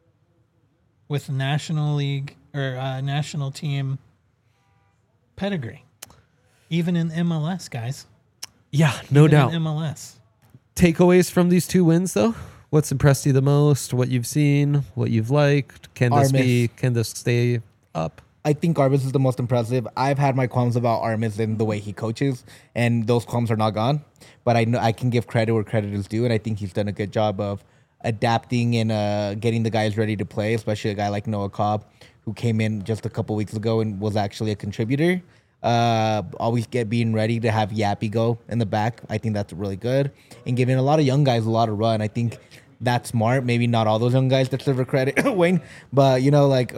with National League or national team pedigree. Even in MLS, guys. Yeah, no Even doubt. in MLS. Takeaways from these 2 wins, though? What's impressed you the most? What you've seen? What you've liked? Can this stay up? I think Armis is the most impressive. I've had my qualms about Armis and the way he coaches, and those qualms are not gone. But I know I can give credit where credit is due, and I think he's done a good job of adapting and getting the guys ready to play, especially a guy like Noah Cobb, who came in just a couple weeks ago and was actually a contributor. Always being ready to have Yappy go in the back. I think that's really good. And giving a lot of young guys a lot of run. I think that's smart. Maybe not all those young guys deserve a credit, Wayne. But, you know, like...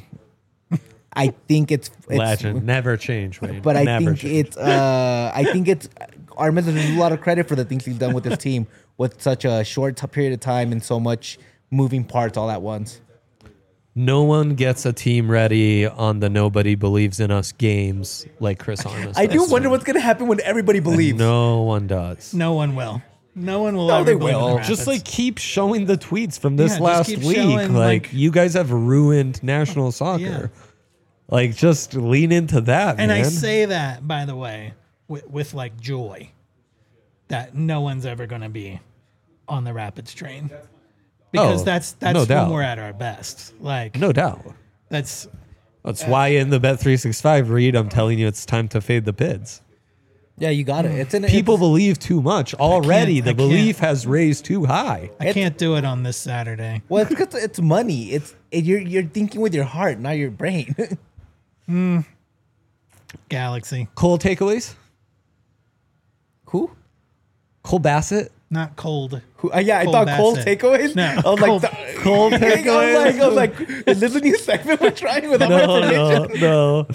I think it's Legend. Never change, Wayne. but I Never think change. it's Armis deserves a lot of credit for the things he's done with his team with such a short period of time and so much moving parts all at once. No one gets a team ready on the nobody believes in us games like Chris Armas. I do does. wonder what's gonna happen when everybody believes. No one does. No one will. No one will No, ever they believe in will. the Just Rapids. like keep showing the tweets from this Yeah, just last keep week. showing, Like like- you guys have ruined national soccer. Yeah. Like just lean into that, And man. I say that, by the way, with like joy, that no one's ever going to be on the Rapids train, because Oh, that's no when doubt. we're at our best. Like No doubt. that's That's why in the Bet365 read, I'm telling you it's time to fade the bids. Yeah, you got it. It's an People believe too much already. I The can't. belief has raised too high. I can't do it on this Saturday. Well, it's because it's money. You're thinking with your heart, not your brain. Galaxy, Cole takeaways? Who? Cole Bassett? not cold. Who? Yeah, I Cole thought Cole Bassett. takeaways. No, I was Cole- like, Cole takeaways? I was like, is this a new segment we're trying without information? No.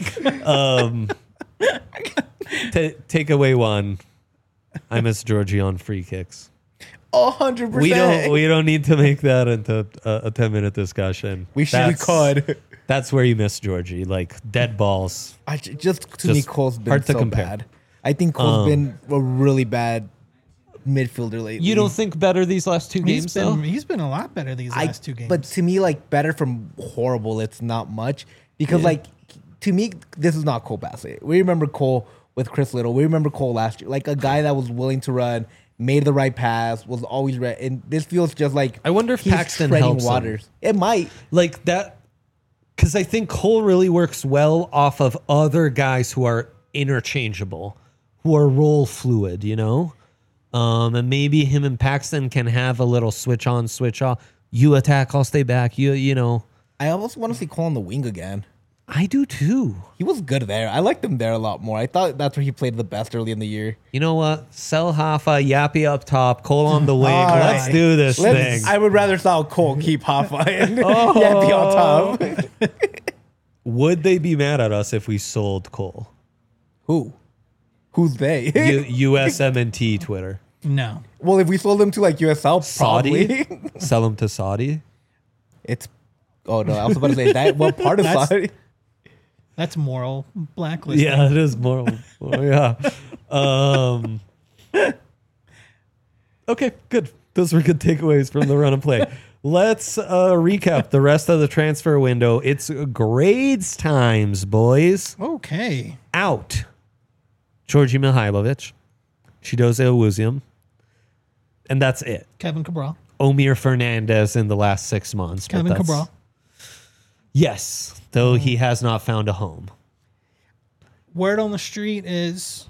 Takeaway 1. I miss Georgie on free kicks. 100%. We don't need to make that into a 10-minute discussion. We could. That's where you miss Georgie, like dead balls. Just to me, Just Cole's been hard to so compare. bad. I think Cole's been a really bad midfielder lately. You don't think better these last 2 games though? He's been a lot better these last 2 games. But to me, like, better from horrible, it's not much. Because, like, to me, this is not Cole Bassett. We remember Cole with Chris Little. We remember Cole last year. Like, a guy that was willing to run, made the right pass, was always ready. And this feels just like I wonder if he's Paxton treading helps him. waters. It might. Like that, because I think Cole really works well off of other guys who are interchangeable, who are role fluid, you know? And maybe him and Paxton can have a little switch on, switch off. You attack, I'll stay back. You know. I almost want to see Cole on the wing again. I do too. He was good there. I liked him there a lot more. I thought that's where he played the best early in the year. You know what? Sell Hoffa, Yappy up top, Cole on the wing. All Let's right. do this thing. I would rather saw Cole keep Hoffa and yeah, be on top. Would they be mad at us if we sold Cole? Who? Who's they? USMNT Twitter. no. Well, if we sold him to like USL, Saudi? probably. Sell him to Saudi? It's Oh no, I was about to say that. What part of That's- Saudi? That's moral blacklisting. Yeah, it is moral. Yeah. Okay, good. Those were good takeaways from the run and play. Let's recap the rest of the transfer window. It's grades times, boys. Okay. Out. Georgi Mihailovic, Chidoze Owuzium, and that's it. Kevin Cabral. Omir Fernandez in the last 6 months. but Kevin that's- Cabral. Yes, though he has not found a home. Word on the street is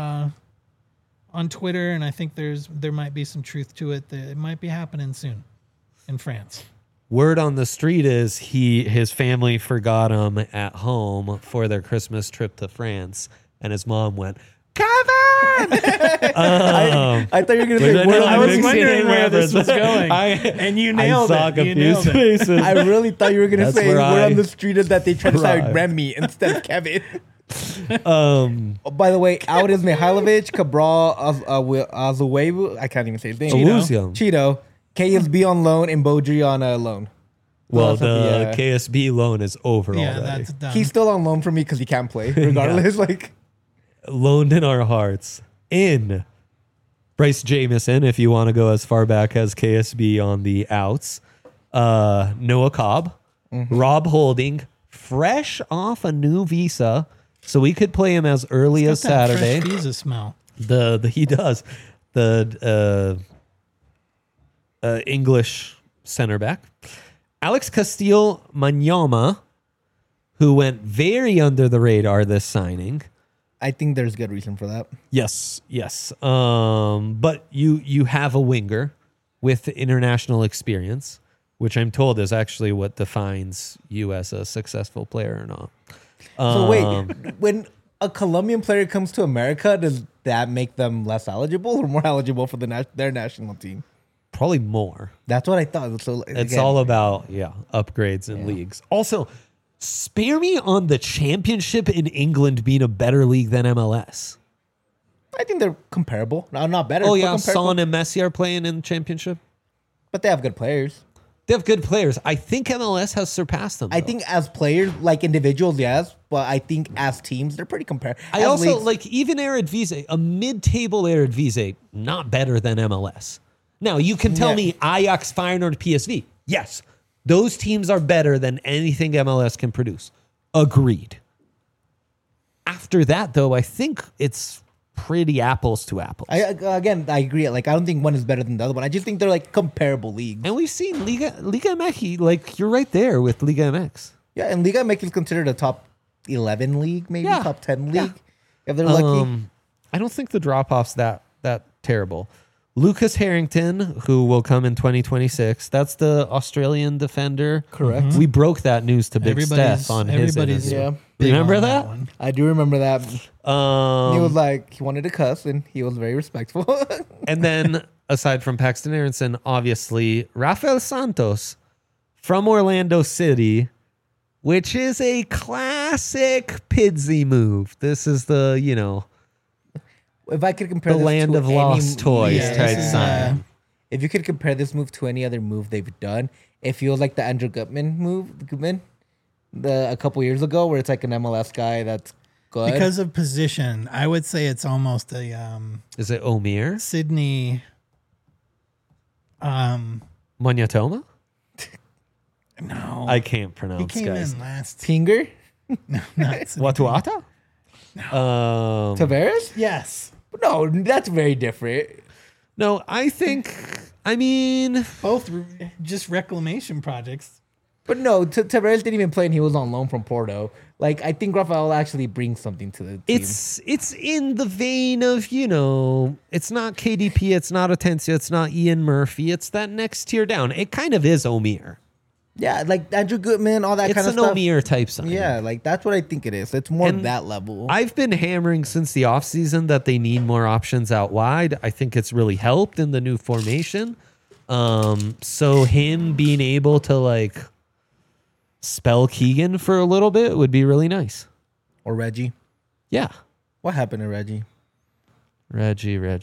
on Twitter, and I think there might be some truth to it, that it might be happening soon in France. Word on the street is his family forgot him at home for their Christmas trip to France, and his mom went, Kevin! I thought you were gonna say. Which Word know I on was the mixing wondering in where this reference. was going, I- and you nailed I saw it. You confused nailed it. faces. I really thought you were gonna That's say where word I on the street is that they tried to sign arrived. Remy instead of Kevin. Um, Oh, by the way, out is Mihailovic, Cabral, Azuevu. I can't even say his name. Owuzium. Cheeto. KSB on loan and Bodri on loan. Well, that's what the KSB loan is over Yeah, already. that's done. He's still on loan for me because he can't play, regardless. Like, Loaned in our hearts. In Bryce Jamison, if you want to go as far back as KSB on the outs. Noah Cobb, Rob Holding, fresh off a new visa, so we could play him as early as Got that Saturday. fresh visa smell. The he does the English center back, Alex Castillo Manyama, who went very under the radar this signing. I think there's good reason for that. Yes. But you have a winger with international experience, which I'm told is actually what defines you as a successful player or not. So wait, when a Colombian player comes to America, does that make them less eligible or more eligible for their national team? Probably more. That's what I thought. So It's again, all about upgrades in leagues. Also, spare me on the championship in England being a better league than MLS. I think they're comparable. No, not better. Oh but yeah, comparable. Son and Messi are playing in the championship. But they have good players. They have good players. I think MLS has surpassed them. I though. think as players, like individuals, yes, but I think as teams, they're pretty comparable. I also like even Eredivisie, a mid-table Eredivisie, not better than MLS. Now you can tell Yeah. me Ajax, Feyenoord, PSV. Yes, those teams are better than anything MLS can produce. Agreed. After that, though, I think it's pretty apples to apples. I agree. Like I don't think one is better than the other one. I just think they're like comparable leagues. And we've seen Liga MX, like you're right there with Liga MX. Yeah, and Liga MX is considered a top 11 league, maybe Yeah. top 10 league, Yeah. if they're lucky. I don't think the drop off's that terrible. Lucas Harrington, who will come in 2026, that's the Australian defender. Correct. We broke that news to Big Steph on his everybody's interview. Yeah. big Remember on that? one. I do remember that. He was like, he wanted to cuss, and he was very respectful. And then, aside from Paxton Aronson, obviously, Rafael Santos from Orlando City, which is a classic Pidgey move. This is the, If I could compare the this land to of any- lost toys Yeah, type this is, sign. if you could compare this move to any other move they've done, it feels like the Andrew Gutman, a couple years ago, where it's like an MLS guy that's good. Because of position, I would say it's almost a Is it Omir? Sydney. Monyatoma? No, I can't he pronounce, came guys. in last. Tinger, Not Sydney. Watuata? Tavares. Yes, No, that's very different. No, I mean, both just reclamation projects. But no, Tavares didn't even play, and he was on loan from Porto. Like I think Rafael actually brings something to the team. it's in the vein of, it's not KDP, it's not Atencia, it's not Ian Murphy, it's that next tier down. It kind of is Omir. Yeah, like Andrew Goodman, all that It's kind an of stuff. Omir type sign. Yeah, like that's what I think it is. It's more And that level. I've been hammering since the offseason that they need more options out wide. I think it's really helped in the new formation. So him being able to spell Keegan for a little bit would be really nice. Or Reggie. Yeah. What happened to Reggie? Reggie. I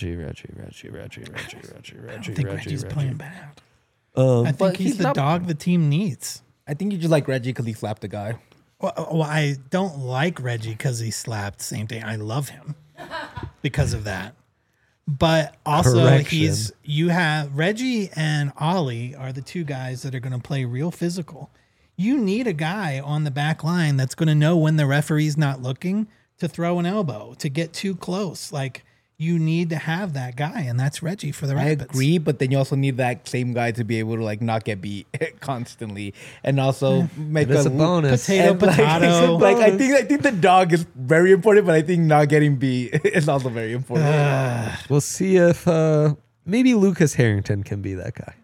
think Reggie's playing bad. I But think he's he's the not- dog the team needs. I think you just like Reggie because he slapped a guy. Well, I don't like Reggie because he slapped. Same thing. I love him because of that. But also, Correction. you have Reggie and Ollie are the two guys that are going to play real physical. You need a guy on the back line that's going to know when the referee's not looking to throw an elbow, to get too close. Like, you need to have that guy, and that's Reggie for the I Rapids. agree, but then you also need that same guy to be able to like not get beat constantly, and also make It's a bonus. Potato, and, like, potato. Like I think the dog is very important, but I think not getting beat is also very important. We'll see if maybe Lucas Harrington can be that guy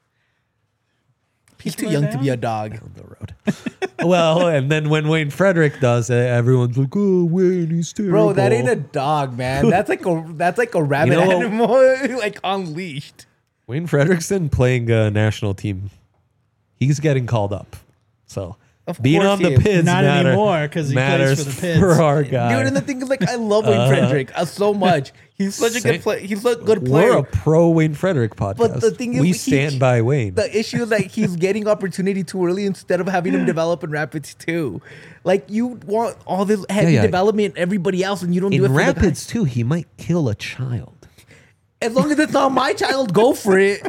He's too young to be a dog. on the road. Well, and then when Wayne Frederick does it, everyone's like, "Oh, Wayne, he's terrible." Bro, that ain't a dog, man. That's like a rabbit You know- animal, like unleashed. Wayne Frederickson playing a national team. He's getting called up. So Of being course on he the is. Pids Not anymore, 'cause he plays matters for the Pids. for our guy. Dude, and the thing is, like, I love Wayne Frederick so much. He's such a Same. good player. He's a good We're player. a pro Wayne Frederick podcast. But the thing is, we he- stand by Wayne. The issue is that he's getting opportunity too early instead of having him develop in Rapids too. Like, you want all this heavy Yeah. development in everybody else, and you don't do it In for Rapids too, he might kill a child. the guy. As long as it's not my child, go for it.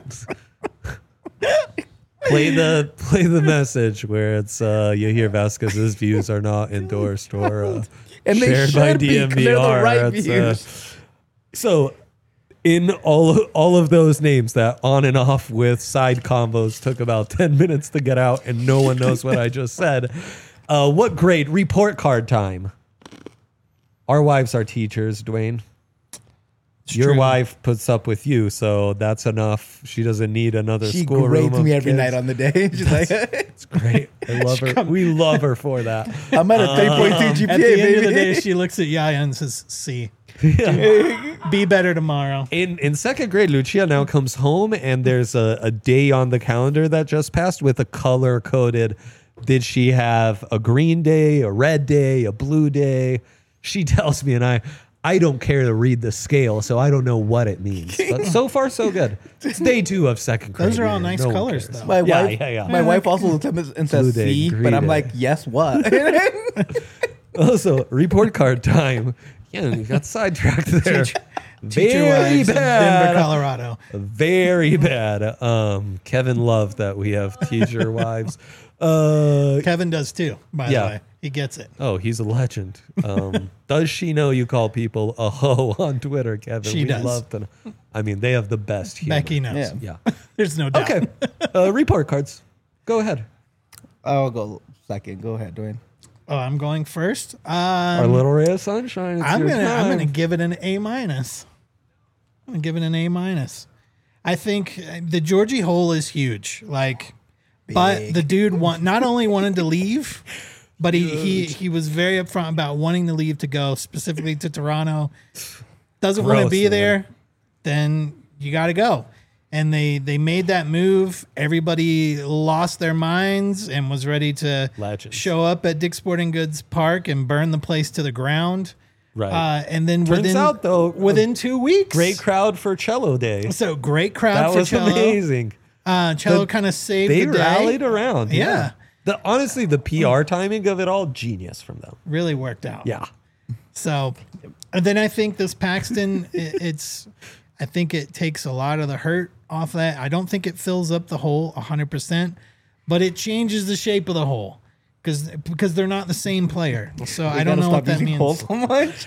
Play the message where it's Yahir Vasquez's views are not endorsed or And they shared by should be, 'cause they're the DMVR. right It's, views. so in all of those names that on and off with side combos took about 10 minutes to get out and no one knows what I just said. What grade? Report card time. Our wives are teachers, Dwayne. Your true. wife puts up with you, so that's enough. She doesn't need another She schoolroom grades of me every kids. night on the day. She's like, It's great. I love her. We love her for that. I'm at a 3.2 GPA, At the end baby. of the day, she looks at Yaya and says, "C, be better tomorrow." In second grade, Lucia now comes home and there's a day on the calendar that just passed with a color coded. Did she have a green day, a red day, a blue day? She tells me, and I don't care to read the scale, so I don't know what it means. But so far, so good. It's day 2 of second grade. Those are all year. nice No one colors, cares. though. My Yeah, wife, yeah. my wife also looks at me and Blue says day, C, green but I'm day. like, yes, what? Also, report card time. Yeah, we got sidetracked there. Teacher Very wives of bad. Denver, Colorado. Very bad. Kevin loved that we have teacher wives. Kevin does too, by Yeah. the way. He gets it. Oh, he's a legend. Does she know you call people a hoe on Twitter, Kevin? She does. Love to know. I mean, they have the best humor. Becky knows. Yeah. Yeah. There's no doubt. Okay. Report cards. Go ahead. I'll go second. Go ahead, Dwayne. Oh, I'm going first. Our little ray of sunshine. It's I'm your gonna time. give it an A minus. I'm gonna give it an A minus. I think the Georgie hole is huge. Like, but Big. the dude not only wanted to leave, but he was very upfront about wanting to leave to go specifically to Toronto. Doesn't want to Gross, be man. there, then you got to go. And they made that move. Everybody lost their minds and was ready to Legends. show up at Dick's Sporting Goods Park and burn the place to the ground. Right. And then Turns out, though, within 2 weeks, Great crowd for Cello Day. So great crowd That for was Cello. amazing. Cello The- kind of saved They the day. rallied around. Yeah. Honestly, the PR timing of it all, genius from them. Really worked out. Yeah. So, and then I think this Paxton, I think it takes a lot of the hurt off that. I don't think it fills up the hole 100%, but it changes the shape of the hole because they're not the same player. So I don't know what that means. Hole so much.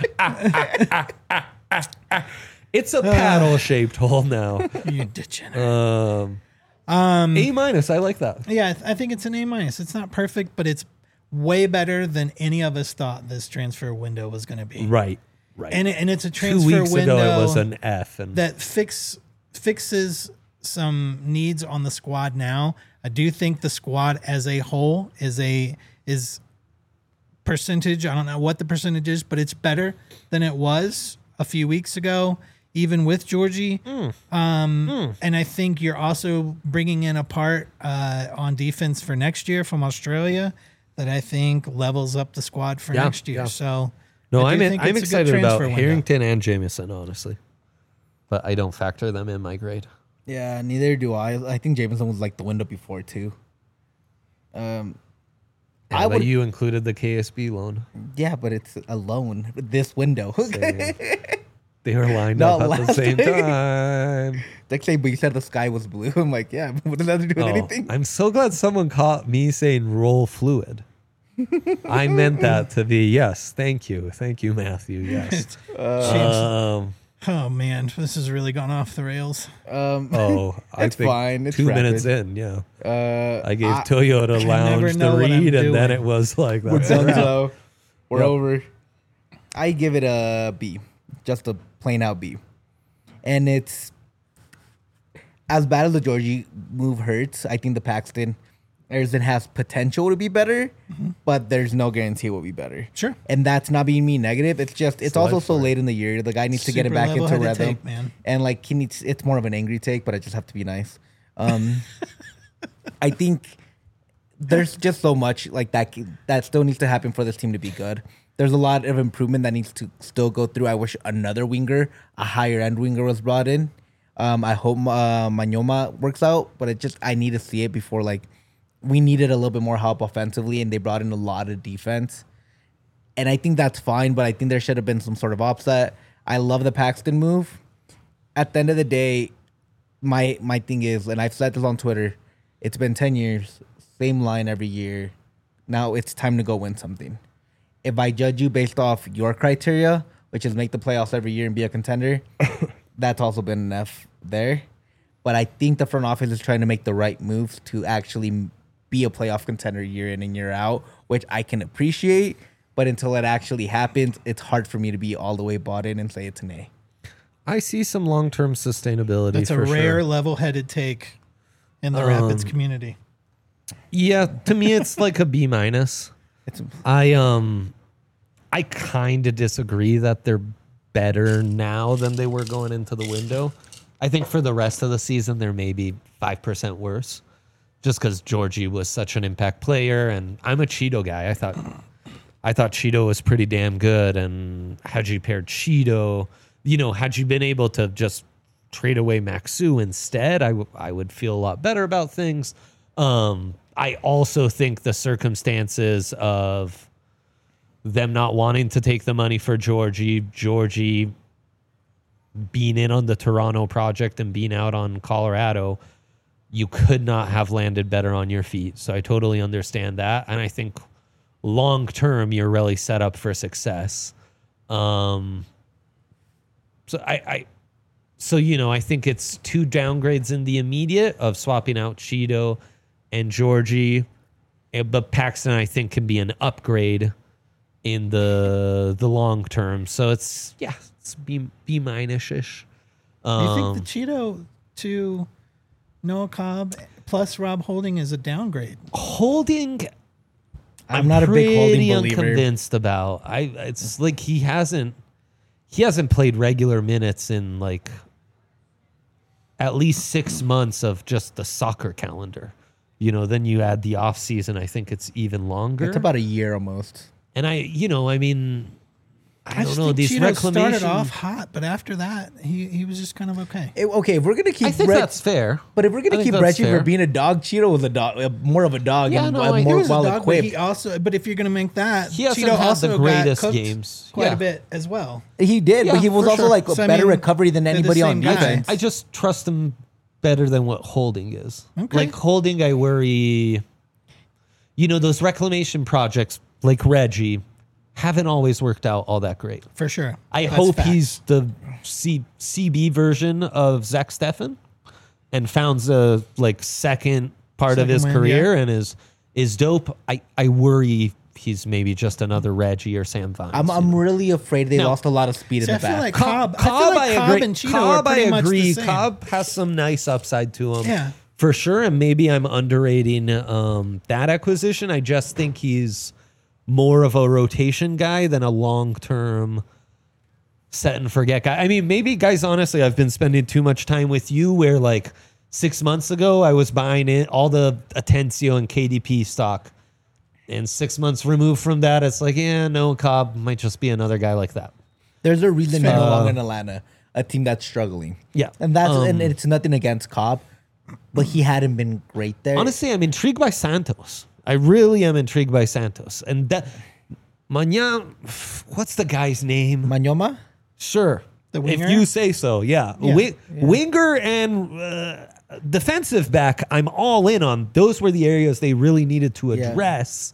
It's a paddle-shaped hole now. You degenerate. A minus. I like that. Yeah, I think it's an A minus. It's not perfect, but it's way better than any of us thought this transfer window was going to be. Right. Right. And it's a 2 transfer weeks window ago, it was an F. And that fixes some needs on the squad now. I do think the squad as a whole is percentage. I don't know what the percentage is, but it's better than it was a few weeks ago, even with Georgie. And I think you're also bringing in a part on defense for next year from Australia that I think levels up the squad for Yeah, next year. yeah. So no, I do I'm think it's a good excited about transfer window. Harrington and Jameson, honestly. But I don't factor them in my grade. Yeah, neither do I. I think Jameson was like the window before too. Yeah, I but would, you included the KSB loan. yeah, but it's a loan this window. Same. They were lined No, up at the last same week. time. Like say, but you said the sky was blue. I'm like, yeah, what does that have to do with Oh, anything? I'm so glad someone caught me saying roll fluid. I meant that to be yes. Thank you, Matthew. Yes. Changed- oh man, this has really gone off the rails. Oh, I It's think fine. It's 2 minutes rapid. in. Yeah, I I gave Toyota never Lounge know the what I'm read, and then doing. it was like We're that's done, it. so we're Yep. over. I give it a B, just a plain out B, and it's as bad as the Georgie move hurts. I think the Paxton Arizona has potential to be better, but there's no guarantee it will be better. Sure. And that's not being me negative. It's just it's also life so for it. late in the year. The guy needs to get it Super back into level-headed rhythm, take, man. and like he needs. It's more of an angry take, but I just have to be nice. I think there's just so much like that still needs to happen for this team to be good. There's a lot of improvement that needs to still go through. I wish another winger, a higher end winger, was brought in. I hope Manyoma works out, but I need to see it before like we needed a little bit more help offensively, and they brought in a lot of defense. And I think that's fine, but I think there should have been some sort of offset. I love the Paxton move. At the end of the day, my thing is, and I've said this on Twitter, it's been 10 years, same line every year. Now it's time to go win something. If I judge you based off your criteria, which is make the playoffs every year and be a contender, that's also been enough there. But I think the front office is trying to make the right moves to actually be a playoff contender year in and year out, which I can appreciate. But until it actually happens, it's hard for me to be all the way bought in and say it's an A. I see some long-term sustainability. That's a for rare sure. level-headed take in the Rapids community. Yeah, to me it's like a B minus. It's I kind of disagree that they're better now than they were going into the window. I think for the rest of the season they're maybe 5% worse, just because Georgie was such an impact player, and I'm a Cheeto guy. I thought Cheeto was pretty damn good, and had you paired Cheeto, had you been able to just trade away Maxu instead, I would feel a lot better about things. I also think the circumstances of them not wanting to take the money for Georgie being in on the Toronto project and being out on Colorado, you could not have landed better on your feet. So I totally understand that. And I think long term, you're really set up for success. So I think it's 2 downgrades in the immediate of swapping out Cheeto and Georgie. But Paxton, I think, can be an upgrade in the long term. So it's B minus-ish. Do you think the Cheeto to Noah Cobb plus Rob Holding is a downgrade? Holding, I'm not a big Holding pretty believer. unconvinced about. It's like he hasn't played regular minutes in like at least 6 months of just the soccer calendar. Then you add the off season, I think it's even longer. It's about a year almost. And I don't just know. think These Cheeto reclamation. started off hot, but after that, he was just kind of okay. Okay, if we're gonna keep I think that's fair. but if we're I gonna think keep that's Reggie fair. for being a dog, Cheeto was a dog, more of a dog, Yeah, and no, I- He more was a well dog, but equipped. he also. But if you're gonna make that, He hasn't Cheeto had also the got greatest cooked games. quite Yeah. a bit as well. He did, Yeah, but he was for also sure. like a So, I better mean, recovery than they're the anybody on same guy. defense. I just trust him better than what Holding is. Okay. Like Holding, I worry. Those reclamation projects like Reggie haven't always worked out all that great. For sure. I That's hope facts. he's the CB version of Zach Steffen and found the second part of Second his wind, career yeah. and is dope. I worry he's maybe just another Reggie or Sam Vines. I'm really afraid they No. lost a lot of speed See, in I the feel back. like Cobb. I feel like Cobb agree. and Cheeto Cobb, are pretty I much agree. the same. Cobb has some nice upside to him. Yeah. For sure, and maybe I'm underrating that acquisition. I just think he's more of a rotation guy than a long-term set and forget guy. I mean, maybe, guys, honestly, I've been spending too much time with you where 6 months ago I was buying it, all the Atencio and KDP stock. And 6 months removed from that, it's no, Cobb might just be another guy like that. There's a reason he's no longer in Atlanta, a team that's struggling. Yeah. and and it's nothing against Cobb, but he hadn't been great there. Honestly, I'm intrigued by Santos. I really am intrigued by Santos. And that Mañana, what's the guy's name? Manyoma? Sure. The winger? If you say so, yeah. Yeah. Winger and defensive back, I'm all in on. Those were the areas they really needed to Yeah. address.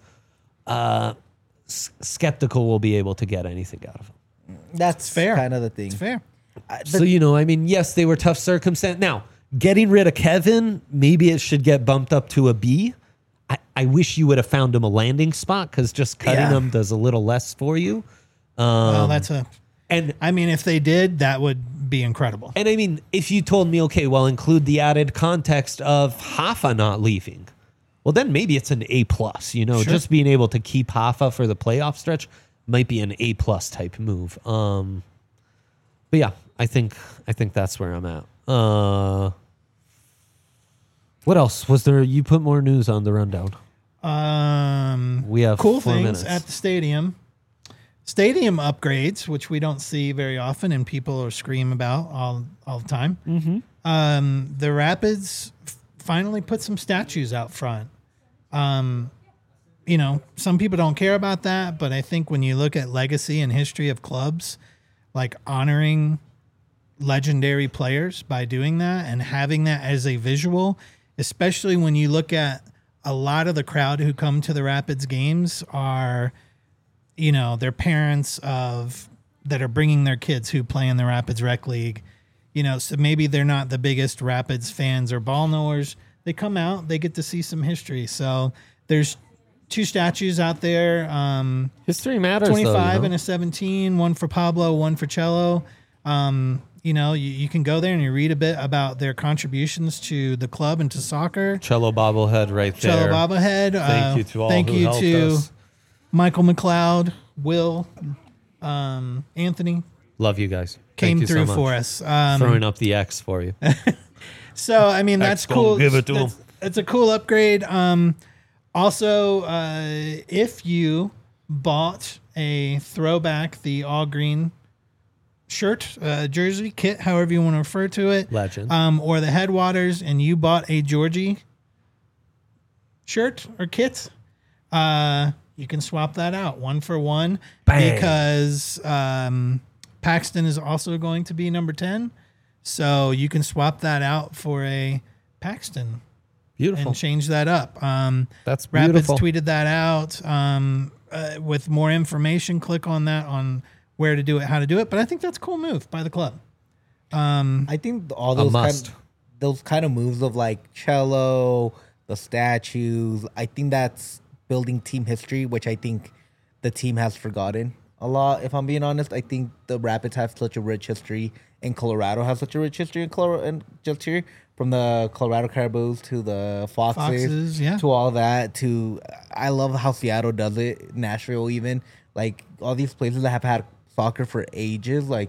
Skeptical will be able to get anything out of him. That's fair. kind of the thing. It's fair. So, I mean, yes, they were tough circumstances. Now, getting rid of Kevin, maybe it should get bumped up to a B. I wish you would have found him a landing spot because just cutting him does a little less for you. Well, I mean, if they did, that would be incredible. And I mean, if you told me, okay, well, include the added context of Hoffa not leaving, well, then maybe it's an A+. Sure. Just being able to keep Hoffa for the playoff stretch might be an A+ type move. But yeah, I think that's where I'm at. What else was there? You put more news on the rundown. We have cool 4 things minutes. at the stadium. Stadium upgrades, which we don't see very often, and people are scream about all the time. Mm-hmm. The Rapids finally put some statues out front. Some people don't care about that, but I think when you look at legacy and history of clubs, like honoring legendary players by doing that and having that as a visual, especially when you look at a lot of the crowd who come to the Rapids games are, their parents that are bringing their kids who play in the Rapids Rec League. So maybe they're not the biggest Rapids fans or ball knowers. They come out, they get to see some history. So there's 2 statues out there. History matters. 25 and a 17, one for Pablo, one for Cello. You can go there and you read a bit about their contributions to the club and to soccer. Cello bobblehead right there. Cello bobblehead. Thank you to all Thank who you helped to us. Michael McLeod, Will, Anthony. Love you guys. Came Thank you through so much. for us. Throwing up the X for you. So, I mean, that's X don't cool. give it to 'em. It's a cool upgrade. Also, if you bought a throwback, the all green shirt, jersey, kit, however you want to refer to it, Legend. or the Headwaters, and you bought a Georgie shirt or kit, you can swap that out 1 for 1. Bang. Because Paxton is also going to be number 10. So you can swap that out for a Paxton Beautiful. and change that up. That's Rapids beautiful. tweeted that out. With more information, click on that on where to do it, how to do it. But I think that's a cool move by the club. I think all those kind of moves of like Cello, the statues, I think that's building team history, which I think the team has forgotten a lot. If I'm being honest, I think the Rapids have such a rich history, and Colorado has such a rich history in Colorado, and just here from the Colorado Caribous to the Foxes, yeah. to all that. To I love how Seattle does it, Nashville even, like all these places that have had soccer for ages, like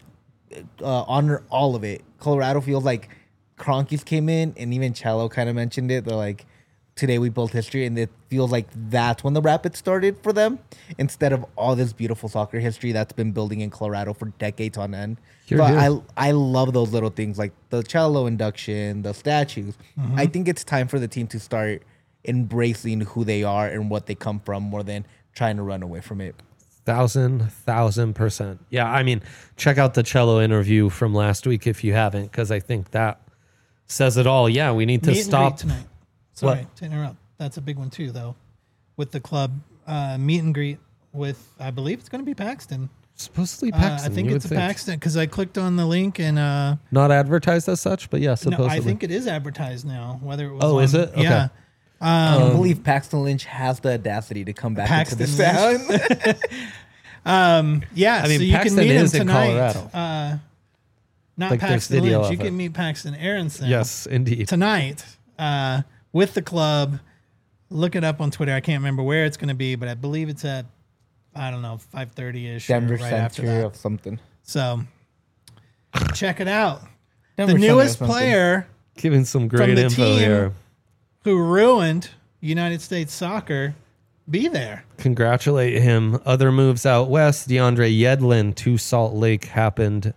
honor all of it. Colorado feels like Kroenkes came in, and even Cello kind of mentioned it. They're like, today we built history, and it feels like that's when the Rapids started for them, instead of all this beautiful soccer history that's been building in Colorado for decades on end. Here, So here. I love those little things like the Cello induction, the statues. I think it's time for the team to start embracing who they are and what they come from, more than trying to run away from it. 1,000%. Yeah, I mean, check out the Cello interview from last week if you haven't, because I think that says it all. Yeah, we need to Meet and stop greet tonight. Sorry to interrupt. That's a big one too, though. With the club meet and greet with, I believe it's going to be Paxton. Supposedly Paxton. I think you it's would a Paxton because I clicked on the link and Not advertised as such, but yeah, no, supposedly. I think it is advertised now. Whether it was Oh, is it? Okay. Yeah. I don't believe Paxton Lynch has the audacity to come back Paxton into this Lynch. town. Yeah, I mean, so you Paxton can meet him is in tonight. Colorado. Not Like, there's Paxton video Lynch. of You it. can meet Paxton Aronson. Yes, indeed. Tonight with the club. Look it up on Twitter. I can't remember where it's going to be, but I believe it's at, I don't know, 5:30ish. Denver or right after Center that. of something. So check it out. Denver The Center of newest something. player Giving some great the info team. here. who ruined United States soccer be there. Congratulate him. Other moves out west. DeAndre Yedlin to Salt Lake happened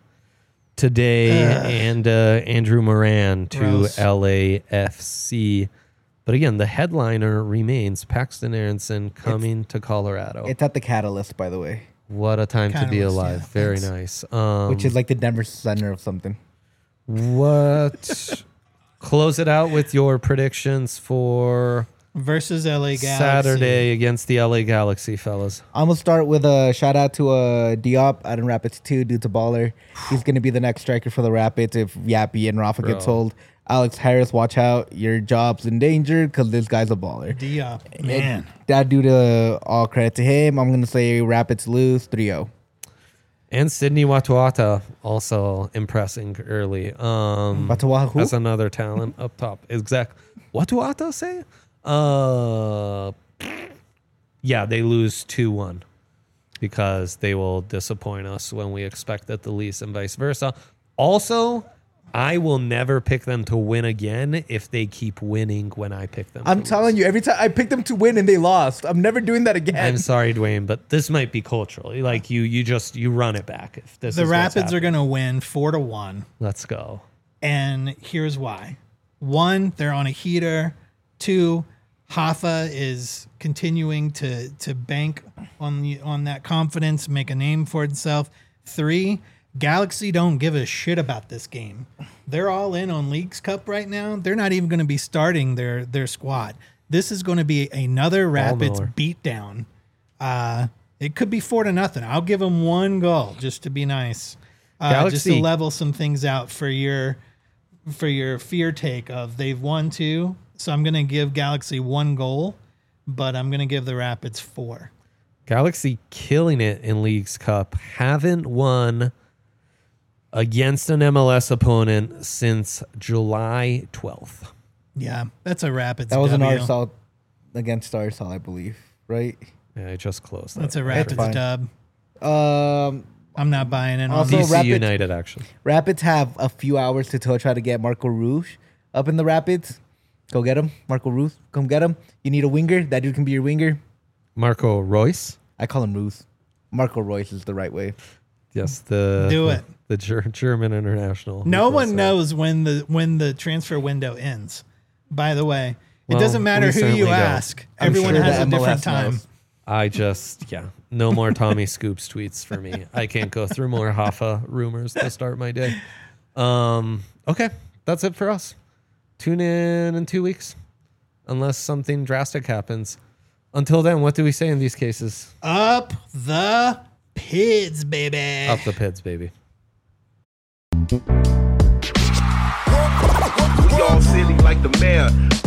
today, and Andrew Moran to Gross. LAFC. But again, the headliner remains Paxton Aronson coming to Colorado. It's at the Catalyst, by the way, What a time to be Catalyst, alive. yeah, Very thanks. nice. which is like the Denver Center of something. What? Close it out with your predictions for Versus LA Galaxy. Saturday against the LA Galaxy, fellas. I'm gonna start with a shout out to Diop out in Rapids 2. Dude's a baller. He's gonna be the next striker for the Rapids if Yappy and Rafa get Bro. sold. Alex Harris, watch out. Your job's in danger because this guy's a baller. Diop, man. That dude, all credit to him. I'm gonna say Rapids lose 3-0. And Sydney Watuata also impressing early. Watuata who? That's another talent up top. Exact. Watuata say? Yeah, they lose 2-1 because they will disappoint us when we expect it the least and vice versa. Also, I will never pick them to win again if they keep winning when I pick them. I'm telling you, every time I picked them to win and they lost. I'm never doing that again. I'm sorry, Dwayne, but this might be cultural. Like you run it back. If this The is what's Rapids are happening. going to win 4-1. Let's go. And here's why. 1, they're on a heater. 2, Hoffa is continuing to bank on that confidence, make a name for itself. 3, Galaxy don't give a shit about this game. They're all in on Leagues Cup right now. They're not even going to be starting their squad. This is going to be another Rapids Miller. beatdown. It could be 4-0. I'll give them 1 goal just to be nice. Just to Galaxy- level some things out for your fear take of they've won 2. So I'm going to give Galaxy 1 goal, but I'm going to give the Rapids 4. Galaxy killing it in Leagues Cup. Haven't won against an MLS opponent since July 12th. Yeah, that's a Rapids that was an W. RSL against RSL, I believe. Right? Yeah, I just closed that. That's a Rapids fine. dub. Um, I'm not buying in on Also, this. DC Rapids- United, actually. Rapids have a few hours to try to get Marco Rouge up in the Rapids. Go get him. Marco Rouge, come get him. You need a winger. That dude can be your winger. Marco Royce. I call him Rouge. Marco Royce is the right way. Yes, Do it. The German international. No Who one was, knows when the transfer window ends. By the way, it Well, doesn't matter we who certainly you don't. ask. I'm Everyone sure has the a different MLS time. knows. no more Tommy Scoops tweets for me. I can't go through more Hoffa rumors to start my day. Okay, that's it for us. Tune in 2 weeks, unless something drastic happens. Until then, what do we say in these cases? Up the Pids, baby. Up the Pids, baby. We all silly like the mayor.